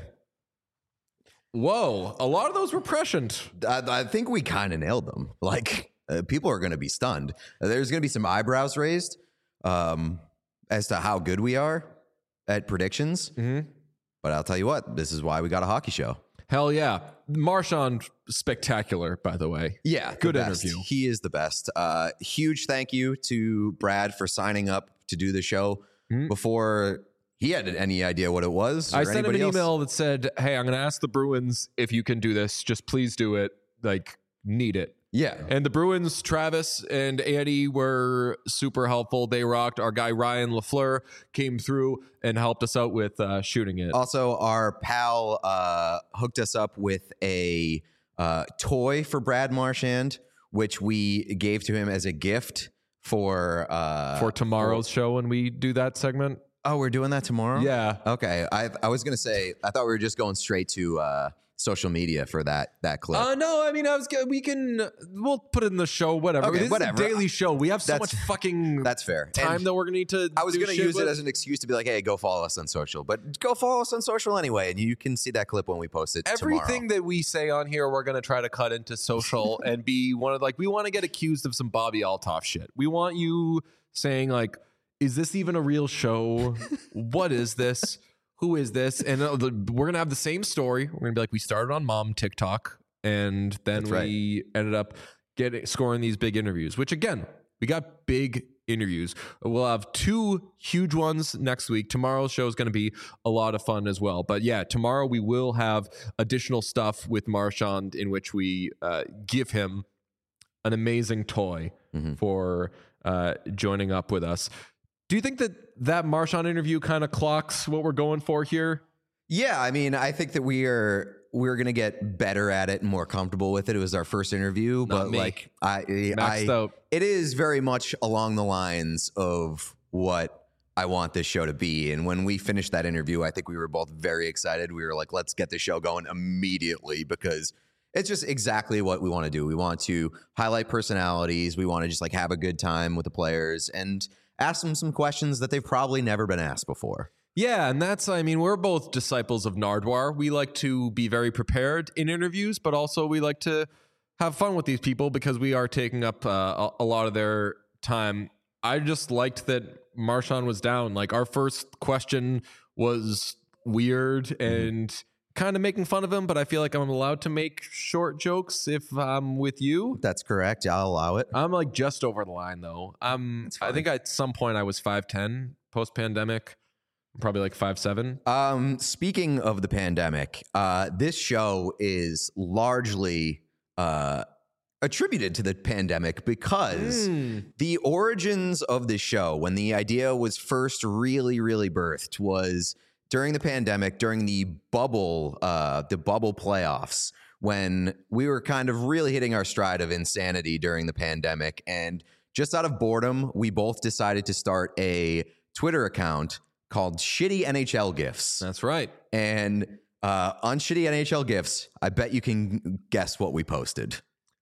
Whoa, a lot of those were prescient. I, I think we kind of nailed them. Like uh, people are going to be stunned. Uh, There's going to be some eyebrows raised um, as to how good we are at predictions. Mm-hmm. But I'll tell you what, this is why we got a hockey show. Hell yeah, Marchand, spectacular. By the way, Yeah, the Good best. interview. He is the best. Uh, huge thank you to Brad for signing up to do the show Mhm. before he had any idea what it was. I or sent him an anybody else. email that said, "Hey, I'm going to ask the Bruins if you can do this. Just please do it. Like, need it." Yeah. And the Bruins, Travis and Andy were super helpful. They rocked. Our guy Ryan LaFleur came through and helped us out with uh, shooting it. Also, our pal uh, hooked us up with a uh, toy for Brad Marchand, which we gave to him as a gift for uh, for tomorrow's show when we do that segment. Oh, we're doing that tomorrow? Yeah. Okay. I I was gonna say I thought we were just going straight to uh, social media for that that clip. Uh, no, I mean, I was. g- We can. We'll put it in the show. Whatever. Okay, this whatever. is a daily show. We have so That's- much fucking That's fair. time And that we're gonna need to. I was do going to shit use with. it as an excuse to be like, hey, go follow us on social. But go follow us on social anyway, and you can see that clip when we post it Everything tomorrow. that we say on here, we're going to try to cut into social and be one of like, we want to get accused of some Bobby Altoff shit. We want you saying like, is this even a real show? What is this? Who is this? And uh, the, we're going to have the same story. We're going to be like, we started on mom TikTok and then That's we ended up getting scoring these big interviews, which again, we got big interviews. We'll have two huge ones next week. Tomorrow's show is going to be a lot of fun as well. But yeah, tomorrow we will have additional stuff with Marchand in which we uh, give him an amazing toy Mhm. for uh, joining up with us. Do you think that that Marchand interview kind of clocks what we're going for here? Yeah, I mean, I think that we are we're going to get better at it and more comfortable with it. It was our first interview, but me. like I, Maxed I out. it is very much along the lines of what I want this show to be. And when we finished that interview, I think we were both very excited. We were like, let's get the show going immediately because it's just exactly what we want to do. We want to highlight personalities. We want to just like have a good time with the players and ask them some questions that they've probably never been asked before. Yeah, and that's, I mean, we're both disciples of Nardwar. We like to be very prepared in interviews, but also we like to have fun with these people because we are taking up uh, a, a lot of their time. I just liked that Marchand was down. Like, our first question was weird and kind of making fun of him, but I feel like I'm allowed to make short jokes if I'm with you. That's correct. I'll allow it. I'm like just over the line though. Um, I think at some point I was five ten post pandemic. I'm probably like five seven. Um, speaking of the pandemic, uh, this show is largely uh, attributed to the pandemic because the origins of the show, when the idea was first really, really birthed, was during the pandemic, during the bubble, uh, the bubble playoffs, when we were kind of really hitting our stride of insanity during the pandemic. And just out of boredom, we both decided to start a Twitter account called Shitty N H L GIFs. That's right. And uh, on Shitty N H L GIFs, I bet you can guess what we posted.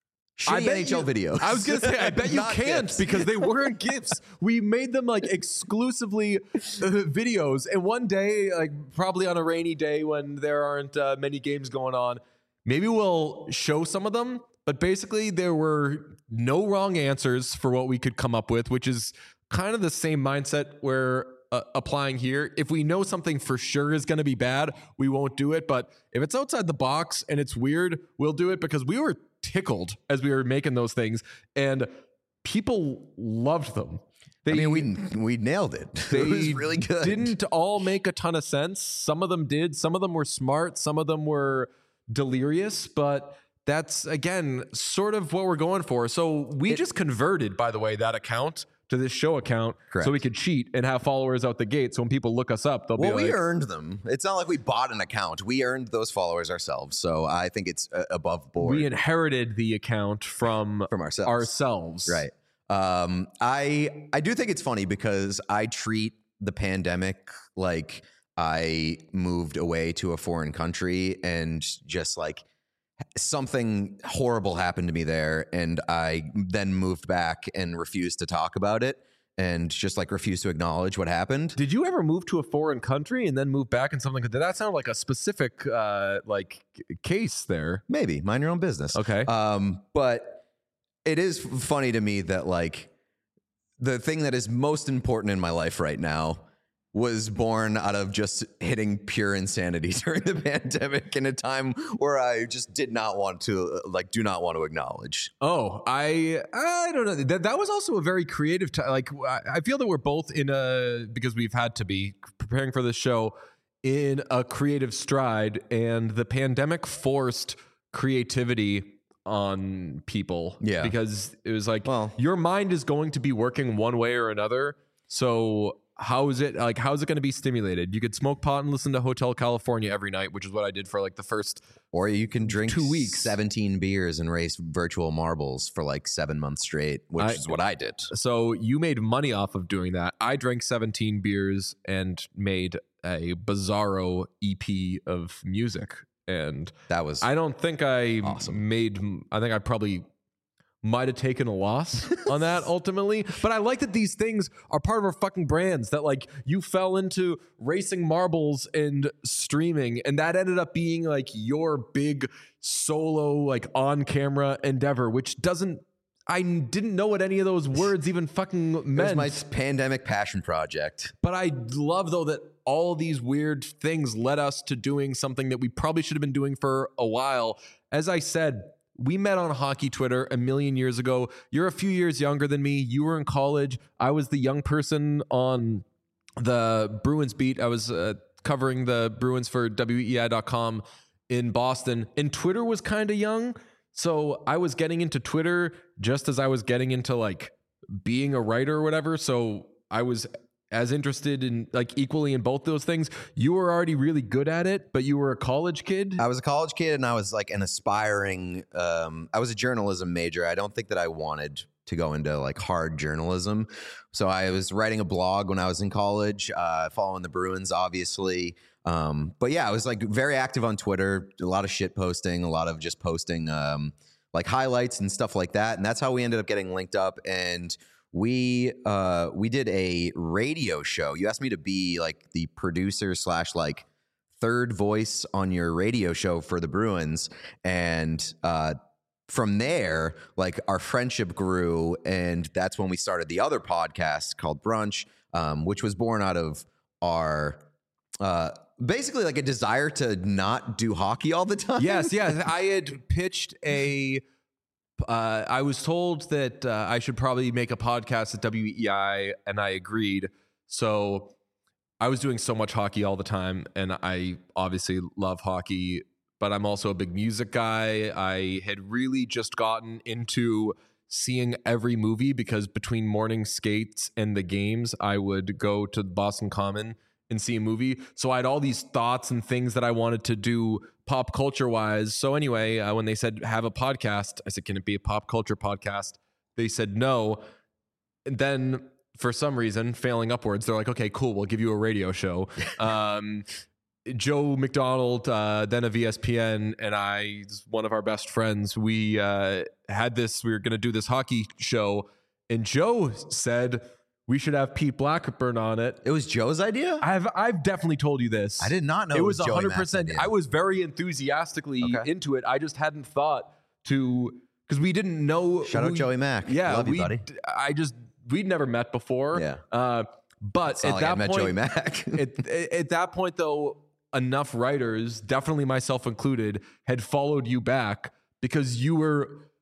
I Shitty bet N H L you- videos. I was gonna say, I bet you Not can't GIFs. because they weren't GIFs. We made them like exclusively uh, videos. And one day, like probably on a rainy day when there aren't uh, many games going on, maybe we'll show some of them. But basically, there were no wrong answers for what we could come up with, which is kind of the same mindset we're uh, applying here. If we know something for sure is going to be bad, we won't do it. But if it's outside the box and it's weird, we'll do it because we were tickled as we were making those things and people loved them. They, I mean, we we nailed it. they It was really good. Didn't all make a ton of sense. Some of them did. Some of them were smart. Some of them were delirious. But that's, again, sort of what we're going for. So we It- just converted, by the way, that account to this show account Correct. so we could cheat and have followers out the gate. So when people look us up, they'll Well, be we like, earned them. It's not like we bought an account. We earned those followers ourselves. So I think it's uh, above board we inherited the account from from ourselves. ourselves. Right. Um, I I do think it's funny because I treat the pandemic like I moved away to a foreign country and just like something horrible happened to me there, and I then moved back and refused to talk about it and just like refused to acknowledge what happened. Did you ever move to a foreign country and then move back and something? Did that sound like a specific uh, like case there? Maybe mind your own business. Okay. Um, but it is funny to me that like the thing that is most important in my life right now was born out of just hitting pure insanity during the pandemic in a time where I just did not want to like do not want to acknowledge. Oh, I I don't know. That that was also a very creative time. Like I I feel that we're both in a, because we've had to be preparing for this show, in a creative stride, and the pandemic forced creativity on people. Yeah. Because it was like, Well- your mind is going to be working one way or another. So how is it like how is it going to be stimulated? You could smoke pot and listen to Hotel California every night, which is what I did for like the first Or you can drink Two weeks. seventeen beers and race virtual marbles for like seven months straight, which I- is what I did. So you made money off of doing that. I drank seventeen beers and made a bizarro E P of music. And That was I don't think I Awesome. made, I think I probably might have taken a loss on that ultimately. But I like that these things are part of our fucking brands, that like you fell into racing marbles and streaming, and that ended up being like your big solo, like on camera endeavor, which doesn't, I didn't know what any of those words even fucking It was meant. my pandemic passion project. But I love, though, that all these weird things led us to doing something that we probably should have been doing for a while. As I said, we met on hockey Twitter a million years ago. You're a few years younger than me. You were in college. I was the young person on the Bruins beat. I was uh, covering the Bruins for W E I dot com in Boston. And Twitter was kind of young. So I was getting into Twitter just as I was getting into like being a writer or whatever. So I was as interested in like equally in both those things. You were already really good at it, but you were a college kid. I was a college kid and I was like an aspiring, um, I was a journalism major. I don't think that I wanted to go into like hard journalism. So I was writing a blog when I was in college, uh, following the Bruins, obviously. Um, but yeah, I was like very active on Twitter, a lot of shit posting, a lot of just posting um, like highlights and stuff like that. And that's how we ended up getting linked up. And we uh, we did a radio show. You asked me to be like the producer slash like third voice on your radio show for the Bruins. And uh, from there, like our friendship grew. And that's when we started the other podcast called Brunch, um, which was born out of our uh, basically like a desire to not do hockey all the time. Yes, yes. I had pitched a. Uh, I was told that uh, I should probably make a podcast at W E I, and I agreed. So I was doing so much hockey all the time, and I obviously love hockey, but I'm also a big music guy. I had really just gotten into seeing every movie because between morning skates and the games, I would go to Boston Common and see a movie. So I had all these thoughts and things that I wanted to do pop culture wise. So anyway, uh, when they said have a podcast, I said, can it be a pop culture podcast? They said no. And then for some reason, failing upwards, they're like, okay, cool, we'll give you a radio show. um, Joe McDonald, uh, then of E S P N, and I, one of our best friends, we uh, had this, we were going to do this hockey show. And Joe said, we should have Pete Blackburn on it. It was Joe's idea? I've I've definitely told you this. I did not know it it was was Joey one hundred Mack's percent. idea. I was very enthusiastically Okay. into it. I just hadn't thought to, because we didn't know. Shout out who- Joey Mack. Yeah, Love you, we, buddy. I just we'd never met before. Yeah. Uh, but It's not at like that I met point, Joey Mack. at, at that point, though, enough writers, definitely myself included, had followed you back because you were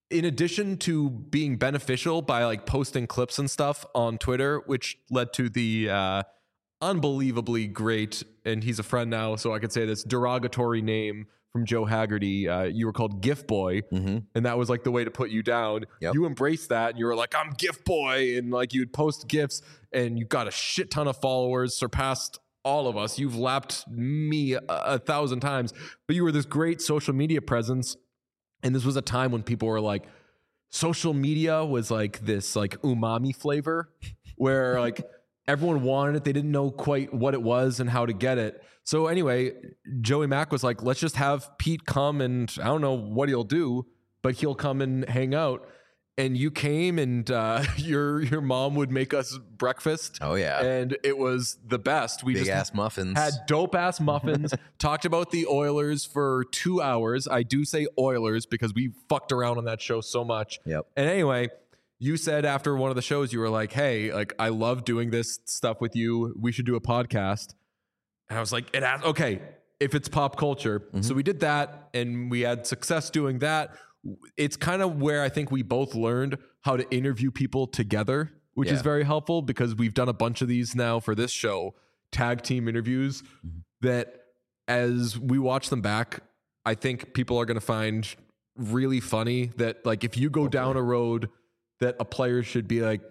in addition to being beneficial by like posting clips and stuff on Twitter, which led to the uh, unbelievably great, and he's a friend now, so I could say this derogatory name from Joe Haggerty. Uh, you were called Gift Boy, Mm-hmm. and that was like the way to put you down. Yep. You embraced that, and you were like, I'm Gift Boy, and like you'd post gifts, and you got a shit ton of followers, surpassed all of us. You've lapped me a, a thousand times, but you were this great social media presence. And this was a time when people were like, social media was like this like umami flavor where like everyone wanted it. They didn't know quite what it was and how to get it. So anyway, Joey Mack was like, let's just have Pete come, and I don't know what he'll do, but he'll come and hang out. And you came, and uh, your your mom would make us breakfast. Oh, yeah. And it was the best. We Big just ass muffins. had dope ass muffins, talked about the Oilers for two hours. I do say Oilers because we fucked around on that show so much. Yep. And anyway, you said after one of the shows, you were like, hey, like, I love doing this stuff with you. We should do a podcast. And I was like, it has, okay, if it's pop culture. Mm-hmm. So we did that, and we had success doing that. It's kind of where I think we both learned how to interview people together, which Yeah. is very helpful because we've done a bunch of these now for this show, tag team interviews, Mm-hmm. that as we watch them back, I think people are going to find really funny. That like if you go down a road that a player should be like,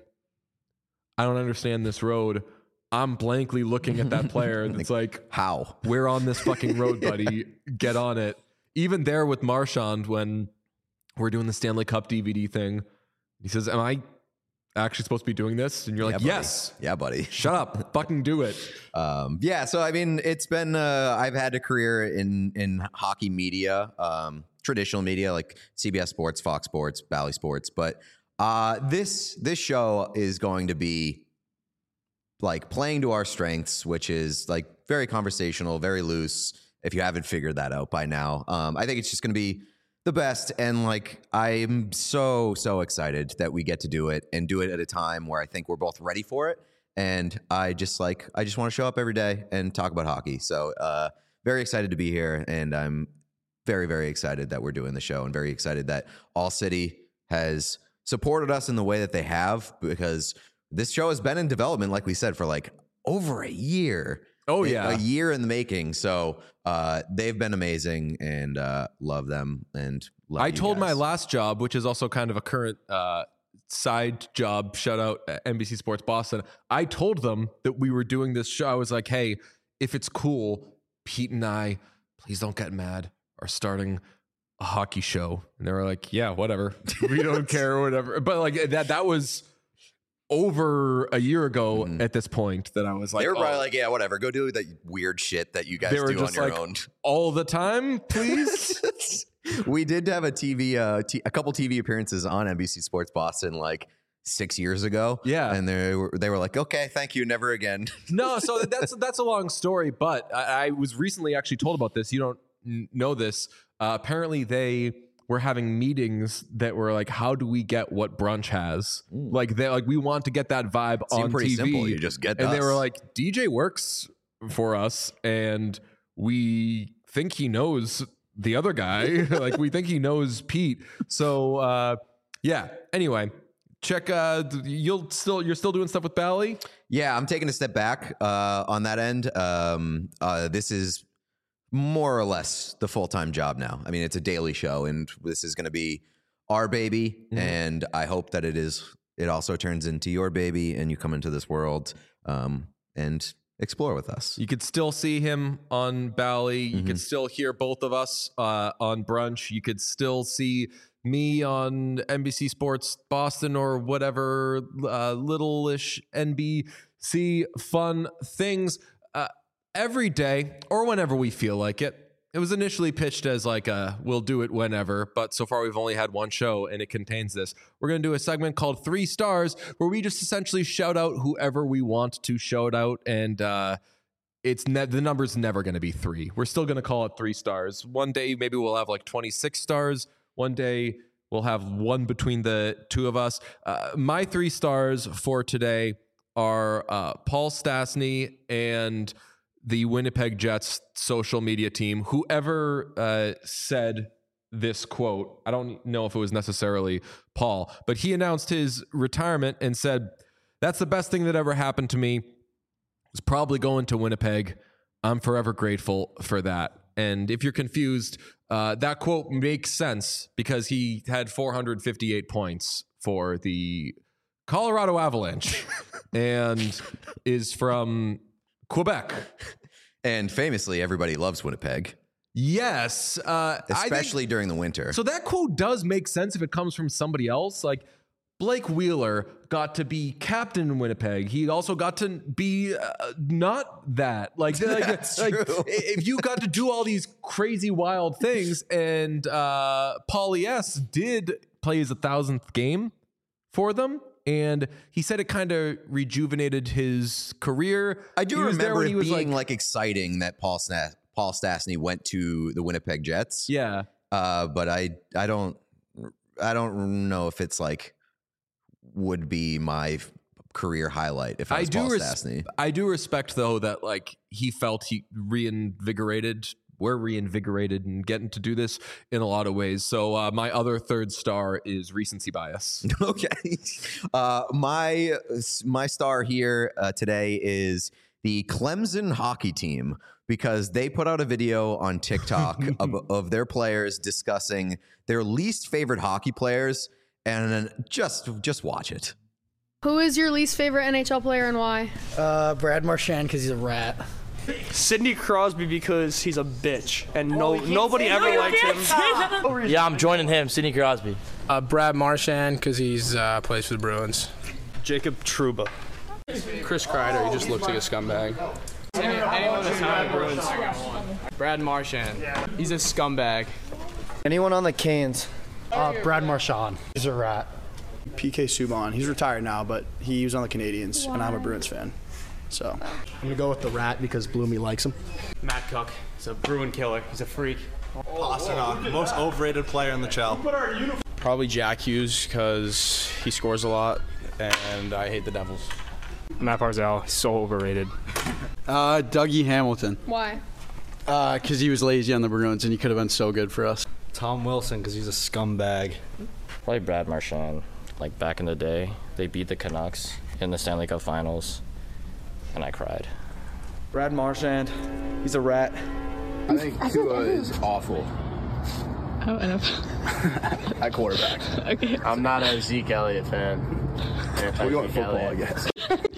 I don't understand this road, I'm blankly looking at that player and it's like, How? we're on this fucking road, buddy. Get on it. Even there with Marchand, when we're doing the Stanley Cup D V D thing, he says, am I actually supposed to be doing this? And you're like, Yeah, buddy. yes. Yeah, buddy. Shut up. Fucking do it. Um, yeah, so I mean, it's been uh, I've had a career in in hockey media, um, traditional media like C B S Sports, Fox Sports, Bally Sports, but uh, this this show is going to be like playing to our strengths, which is like very conversational, very loose. If you haven't figured that out by now, um, I think it's just going to be the best. And like, I'm so, so excited that we get to do it and do it at a time where I think we're both ready for it. And I just like, I just want to show up every day and talk about hockey. So uh, very excited to be here. And I'm very, very excited that we're doing the show, and very excited that All City has supported us in the way that they have, because this show has been in development, like we said, for like over a year. Oh, A- yeah. a year in the making. So uh, they've been amazing, and uh, love them. And love I you told my guys. last job, which is also kind of a current uh, side job, shout out at N B C Sports Boston. I told them that we were doing this show. I was like, hey, if it's cool, Pete and I, please don't get mad, are starting a hockey show. And they were like, yeah, whatever. We don't care or whatever. But like that, that was over a year ago Mhm. at this point that I was like, They were probably oh. like, yeah, whatever. Go do that weird shit that you guys They were do on just your like, own. all the time, please. We did have a T V, uh, t- a couple T V appearances on N B C Sports Boston like six years ago. Yeah. And they were, they were like, okay, thank you. Never again. No, so that's that's a long story, but I, I was recently actually told about this. You don't n- know this. Uh, apparently, they were having meetings that were like, "How do we get what Brunch has? Like, they like we want to get that vibe Seemed on pretty T V." simple. You just get and they us. were like, "D J works for us, and we think he knows the other guy. Like, we think he knows Pete." So, uh, yeah. Anyway. Check. Uh, you'll still you're still doing stuff with Bally. Yeah, I'm taking a step back uh, on that end. Um, uh, this is more or less the full-time job now. I mean, it's a daily show, and this is going to be our baby. Mhm. And I hope that it is. It also turns into your baby, and you come into this world um, and explore with us. You could still see him on Bally. You Mm-hmm. could still hear both of us uh, on Brunch. You could still see me on N B C Sports Boston or whatever uh, little-ish N B C fun things uh, every day or whenever we feel like it. It was initially pitched as like a we'll do it whenever, but so far we've only had one show and it contains this. We're going to do a segment called Three Stars where we just essentially shout out whoever we want to shout out, and uh, it's ne- the number's never going to be three. We're still going to call it three stars. One day maybe we'll have like twenty-six stars. One day we'll have one between the two of us. Uh, my three stars for today are uh, Paul Stastny and the Winnipeg Jets social media team. Whoever uh, said this quote. I don't know if it was necessarily Paul, but he announced his retirement and said, "That's the best thing that ever happened to me. Was probably going to Winnipeg. I'm forever grateful for that." And if you're confused, uh, that quote makes sense because he had four hundred fifty-eight points for the Colorado Avalanche and is from Quebec. And famously, everybody loves Winnipeg, Yes. Uh, especially I think, during the winter. so that quote does make sense if it comes from somebody else. Like Blake Wheeler got to be captain in Winnipeg. He also got to be uh, not that. Like, like, That's like true. if you got to do all these crazy, wild things, and uh, Paulie S did play his a thousandth game for them. And he said it kind of rejuvenated his career. I do He was there remember when it he was being like, exciting that Paul Sna- Paul Stastny went to the Winnipeg Jets. yeah. Uh, but I I don't I don't know if it's like would be my f- career highlight if I I was do Paul res- Stastny. I do respect though that like he felt he reinvigorated. We're reinvigorated and getting to do this in a lot of ways. So uh, my other third star is recency bias. Okay. Uh, my my star here uh, today is the Clemson hockey team because they put out a video on TikTok of, of their players discussing their least favorite hockey players, and then just just watch it. Who is your least favorite N H L player and why? Uh, Brad Marchand because he's a rat. Sidney Crosby because he's a bitch and no nobody ever likes him. Yeah, I'm joining him, Sidney Crosby. Uh, Brad Marchand because he's uh, plays for the Bruins. Jacob Trouba. Chris Kreider, he just looks like a scumbag. Anyone that's not the Bruins. Brad Marchand, he's a scumbag. Anyone on the Canes? Uh, Brad Marchand. He's a rat. P K Subban. He's retired now, but he was on the Canadians, and I'm a Bruins fan. So I'm going to go with the rat because Bloomy likes him. Matt Cook, he's a Bruin killer. He's a freak. Pasternak, most overrated player in the C H L. Probably Jack Hughes because he scores a lot, and I hate the Devils. Matt Barzal, so overrated. Uh, Dougie Hamilton. Why? Uh, because he was lazy on the Bruins and he could have been so good for us. Tom Wilson because he's a scumbag. Probably Brad Marchand. Like back in the day, they beat the Canucks in the Stanley Cup Finals, and I cried. Brad Marchand, he's a rat. I think Tua is awful. Oh, enough. At quarterback. Okay. I'm not a Zeke Elliott fan. We're going football, I guess.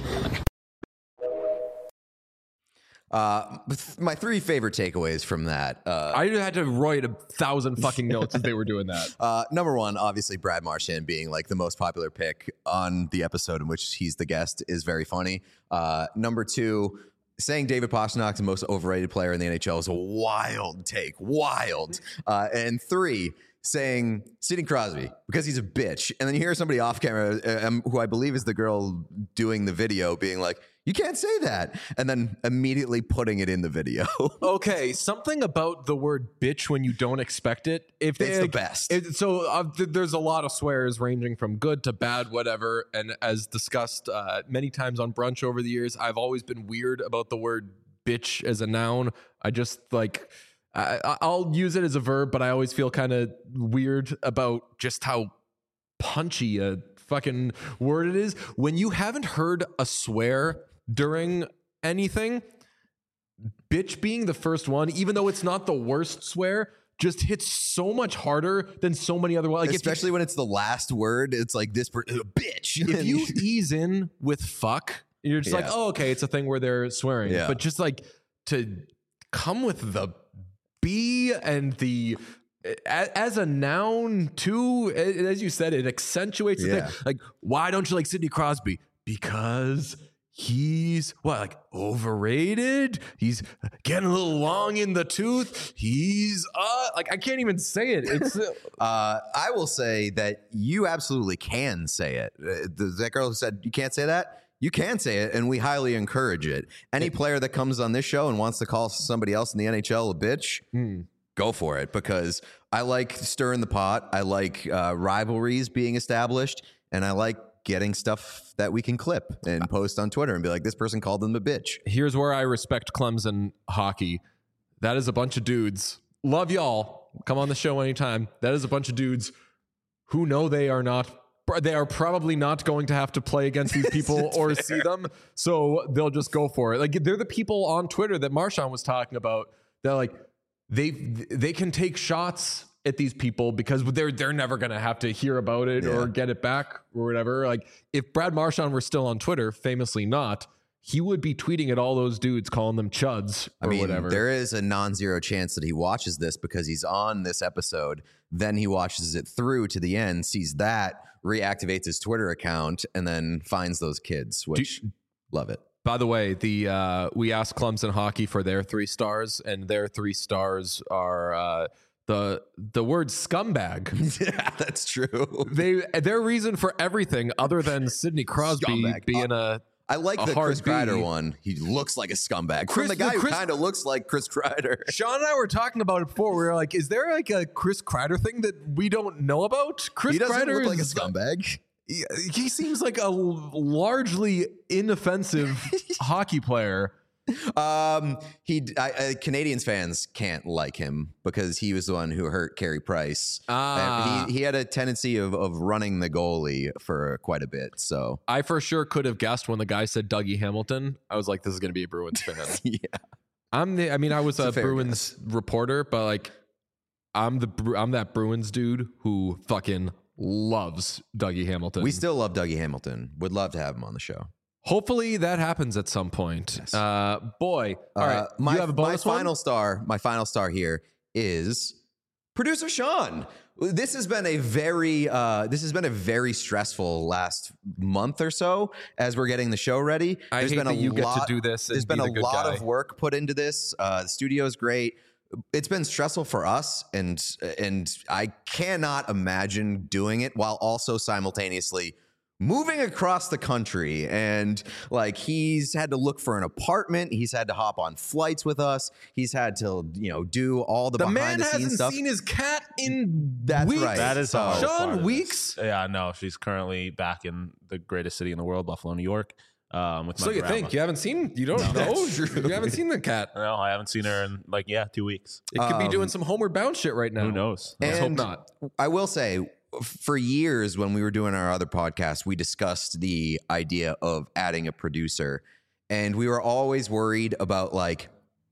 Uh, my three favorite takeaways from that. Uh, I had to write a thousand fucking notes as they were doing that. Uh, number one, obviously Brad Marchand being like the most popular pick on the episode in which he's the guest is very funny. Uh, number two, saying David Pastrnak is the most overrated player in the N H L is a wild take, wild. Uh, and three, saying Sidney Crosby because he's a bitch. And then you hear somebody off camera, um, who I believe is the girl doing the video, being like, you can't say that. And then immediately putting it in the video. Okay, something about the word bitch when you don't expect it. If they, It's the like, best. It, so uh, th- there's a lot of swears ranging from good to bad, whatever. And as discussed uh, many times on brunch over the years, I've always been weird about the word bitch as a noun. I just like... I, I'll use it as a verb, but I always feel kind of weird about just how punchy a fucking word it is. When you haven't heard a swear during anything, bitch being the first one, even though it's not the worst swear, just hits so much harder than so many other words. Like Especially you, when it's the last word, it's like this per- bitch. If you ease in with fuck, you're just Yeah. like, oh, okay, it's a thing where they're swearing. Yeah. But just like to come with the B and the as a noun too, as you said, it accentuates the Yeah. thing. Like, why don't you like Sidney Crosby? Because he's what, like overrated? He's getting a little long in the tooth. He's uh like I can't even say it. It's uh, uh, I will say that you absolutely can say it. Uh, the, that girl who said you can't say that. You can say it, and we highly encourage it. Any player that comes on this show and wants to call somebody else in the N H L a bitch, mm. go for it, because I like stirring the pot. I like uh, rivalries being established, and I like getting stuff that we can clip and post on Twitter and be like, this person called them a bitch. Here's where I respect Clemson hockey. That is a bunch of dudes. Love y'all. Come on the show anytime. That is a bunch of dudes who know they are not, they are probably not going to have to play against these people or fair. see them. So they'll just go for it. Like they're the people on Twitter that Marshawn was talking about. They're like, they they can take shots at these people because they're they're never going to have to hear about it yeah. or get it back or whatever. Like if Brad Marchand were still on Twitter, famously not, he would be tweeting at all those dudes, calling them chuds or I mean, whatever. There is a non-zero chance that he watches this because he's on this episode. Then he watches it through to the end, sees that, reactivates his Twitter account, and then finds those kids, which Do, love it. By the way, the uh, we asked Clemson Hockey for their three stars, and their three stars are uh, the the word scumbag. Yeah, that's true. They their reason for everything other than Sidney Crosby scumbag. being a I like the Chris Kreider one. He looks like a scumbag. Chris, From the guy the Chris, who kind of looks like Chris Kreider. Sean and I were talking about it before. We were like, is there like a Chris Kreider thing that we don't know about? Chris he doesn't Kreider look like is, a scumbag. He, he seems like a largely inoffensive hockey player. Um, he I, uh, Canadians fans can't like him because he was the one who hurt Carey Price. Ah. He he had a tendency of of running the goalie for quite a bit. So I for sure could have guessed when the guy said Dougie Hamilton. I was like, this is going to be a Bruins fan. Yeah, I'm the. I mean, I was it's a, a Bruins guess. reporter, but like, I'm the I'm that Bruins dude who fucking loves Dougie Hamilton. We still love Dougie Hamilton. Would love to have him on the show. Hopefully that happens at some point. Yes. Uh, boy, all uh, right. My, you have a bonus my one? final star. My final star here is producer Sean. This has been a very uh, this has been a very stressful last month or so as we're getting the show ready. I there's hate been a that you lot, get to do this. And There's been be a the good lot guy. of work put into this. Uh, the studio is great. It's been stressful for us, and and I cannot imagine doing it while also simultaneously moving across the country. And like he's had to look for an apartment. He's had to hop on flights with us. He's had to, you know, do all the, The behind man the scenes hasn't stuff. seen his cat in That's weeks. right. That is So- all Sean, part of weeks? this. Yeah, no, she's currently back in the greatest city in the world, Buffalo, New York. Um, with my So you grandma. think you haven't seen? You don't No, know. that's true. You haven't seen the cat. No, I haven't seen her in like yeah, two weeks. It could be Um, doing some homeward bound shit right now. Who knows? Let's hope And not. I will say, for years when we were doing our other podcast, we discussed the idea of adding a producer, and we were always worried about like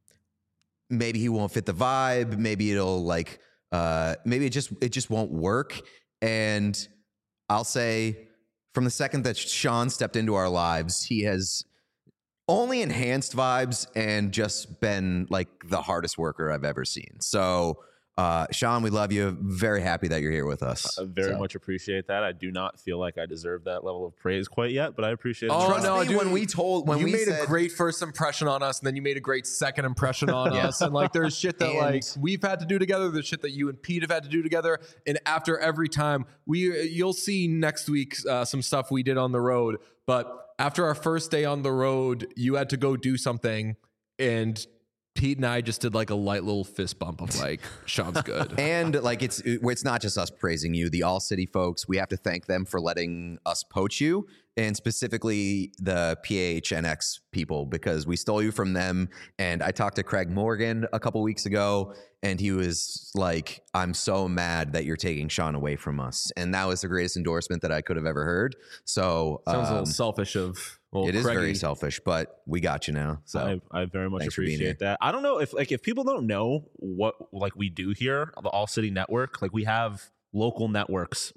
maybe he won't fit the vibe, maybe it'll like uh, maybe it just it just won't work. And I'll say, from the second that Sean stepped into our lives, he has only enhanced vibes and just been like the hardest worker I've ever seen. So. Uh, Sean, we love you. Very happy that you're here with us. I very So. much appreciate that. I do not feel like I deserve that level of praise quite yet, but I appreciate it. Oh, Trust no, me, dude, when we told, when you we made said, a great first impression on us, and then you made a great second impression on Yeah. us. And like, there's shit that And- like we've had to do together. There's shit that you and Pete have had to do together. And after every time, we you'll see next week uh, some stuff we did on the road. But after our first day on the road, you had to go do something, and Pete and I just did like a light little fist bump of like, Sean's good. and like it's it's not just us praising you. The All City folks, we have to thank them for letting us poach you, and specifically the P H N X people, because we stole you from them. And I talked to Craig Morgan a couple weeks ago, and he was like, "I'm so mad that you're taking Sean away from us," and that was the greatest endorsement that I could have ever heard. So Sounds a little um, selfish of old it is Craigie. very selfish, but we got you now. So I, I very much thanks for being here. appreciate that. I don't know if like if people don't know what like we do here, the All City Network, like we have local networks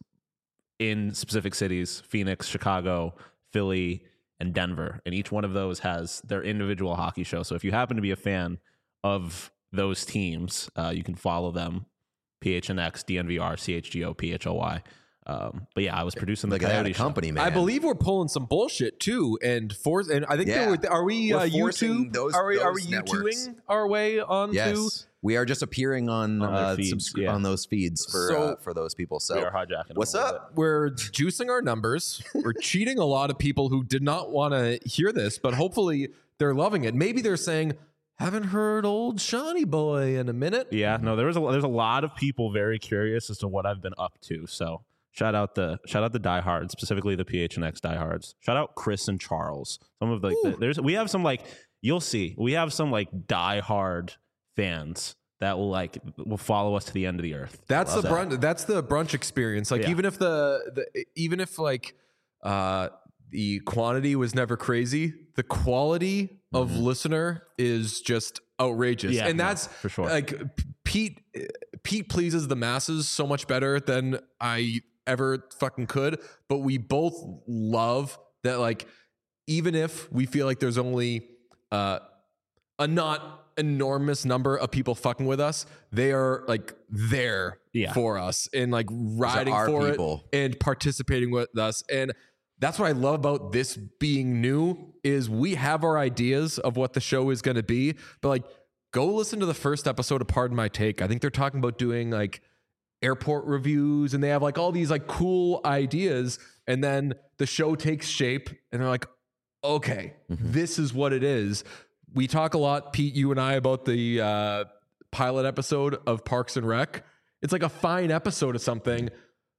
in specific cities: Phoenix, Chicago, Philly, and Denver, and each one of those has their individual hockey show. So if you happen to be a fan of those teams, uh, you can follow them: P H N X, D N V R, C H G O, P H O Y. Um, but yeah, I was producing the Look at that, Coyote a show. company, man. I believe we're pulling some bullshit too, and force. And I think Yeah. there were, are we We're uh, forcing YouTube? those- are we are we those networks. YouTubing our way onto? yes, we are just appearing on On their uh, feeds, subscri- yeah. on those feeds for So- uh, for those people. So We are hijacking. what's them a little up? We're juicing our numbers. We're cheating a lot of people who did not want to hear this, but hopefully they're loving it. Maybe they're saying, "Haven't heard old Shawnee boy in a minute." Yeah, no, there was a there's a lot of people very curious as to what I've been up to. So shout out the shout out the diehards, specifically the P H N X diehards. Shout out Chris and Charles. Some of like the, there's we have some like you'll see we have some like diehard fans that will like will follow us to the end of the earth. That's Love the that. brunch. That's the brunch experience. Like Yeah. even if the, the even if like uh, the quantity was never crazy, the quality of listener is just outrageous. Yeah, and no, that's for sure. Like Pete, Pete pleases the masses so much better than I ever fucking could. But we both love that. Like even if we feel like there's only uh, a not enormous number of people fucking with us, they are like there Yeah. for us and like riding our for people. it and participating with us. And that's what I love about this being new is we have our ideas of what the show is going to be, but like go listen to the first episode of Pardon My Take. I think they're talking about doing like airport reviews and they have like all these like cool ideas. And then the show takes shape and they're like, okay, Mm-hmm. this is what it is. We talk a lot, Pete, you and I, about the uh, pilot episode of Parks and Rec. It's like a fine episode of something,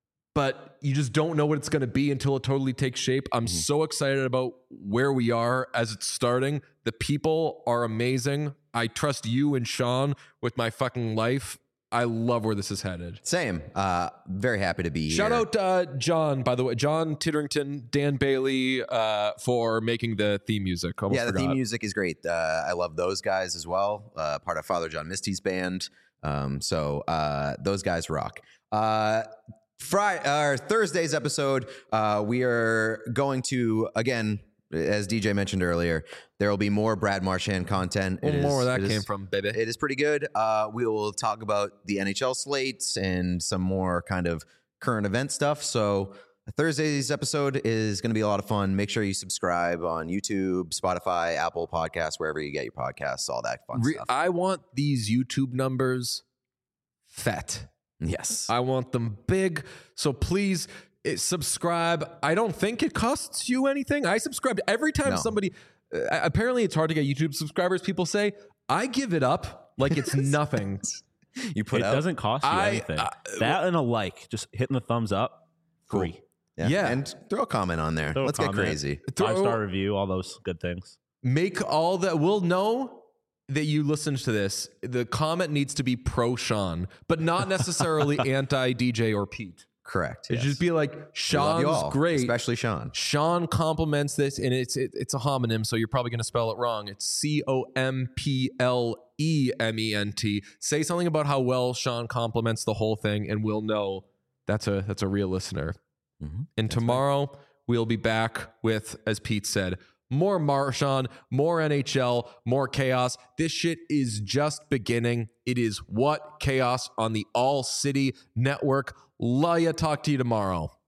but you just don't know what it's going to be until it totally takes shape. I'm Mm-hmm. so excited about where we are as it's starting. The people are amazing. I trust you and Sean with my fucking life. I love where this is headed. Same. Uh, very happy to be here. Shout out uh, John, by the way, John Titterington, Dan Bailey, uh, for making the theme music. Almost yeah, the forgot. theme music is great. Uh, I love those guys as well. Uh, part of Father John Misty's band. Um, so uh, those guys rock. Uh, Friday, our Thursday's episode, uh, we are going to, again, as D J mentioned earlier, there will be more Brad Marchand content. Well, It more is- where that it came is- from, baby. It is pretty good. Uh, we will talk about the N H L slates and some more kind of current event stuff. So Thursday's episode is going to be a lot of fun. Make sure you subscribe on YouTube, Spotify, Apple Podcasts, wherever you get your podcasts, all that fun Re- stuff. I want these YouTube numbers fat. Yes. I want them big. So please eh, subscribe. I don't think it costs you anything. I subscribe every time No. somebody. Uh, apparently, it's hard to get YouTube subscribers. People say I give it up like it's nothing. You put it out. doesn't cost you I- anything. I- that and a like, just hitting the thumbs up, free. Yeah. Yeah. And throw a comment on there. Throw a Let's get comment, crazy. Five star review, all those good things. Make all that. We'll know that you listened to this. The comment needs to be pro Sean, but not necessarily anti D J or Pete. Correct. It yes. just be like We love Sean's you all, great, especially Sean. Sean compliments this, and it's it, it's a homonym, so you're probably going to spell it wrong. It's C O M P L E M E N T. Say something about how well Sean compliments the whole thing, and we'll know that's a that's a real listener. Mm-hmm. And tomorrow we'll be back with, as Pete said, more Marchand, more N H L, more chaos. This shit is just beginning. It is what chaos on the All City Network. Love ya. Talk to you tomorrow.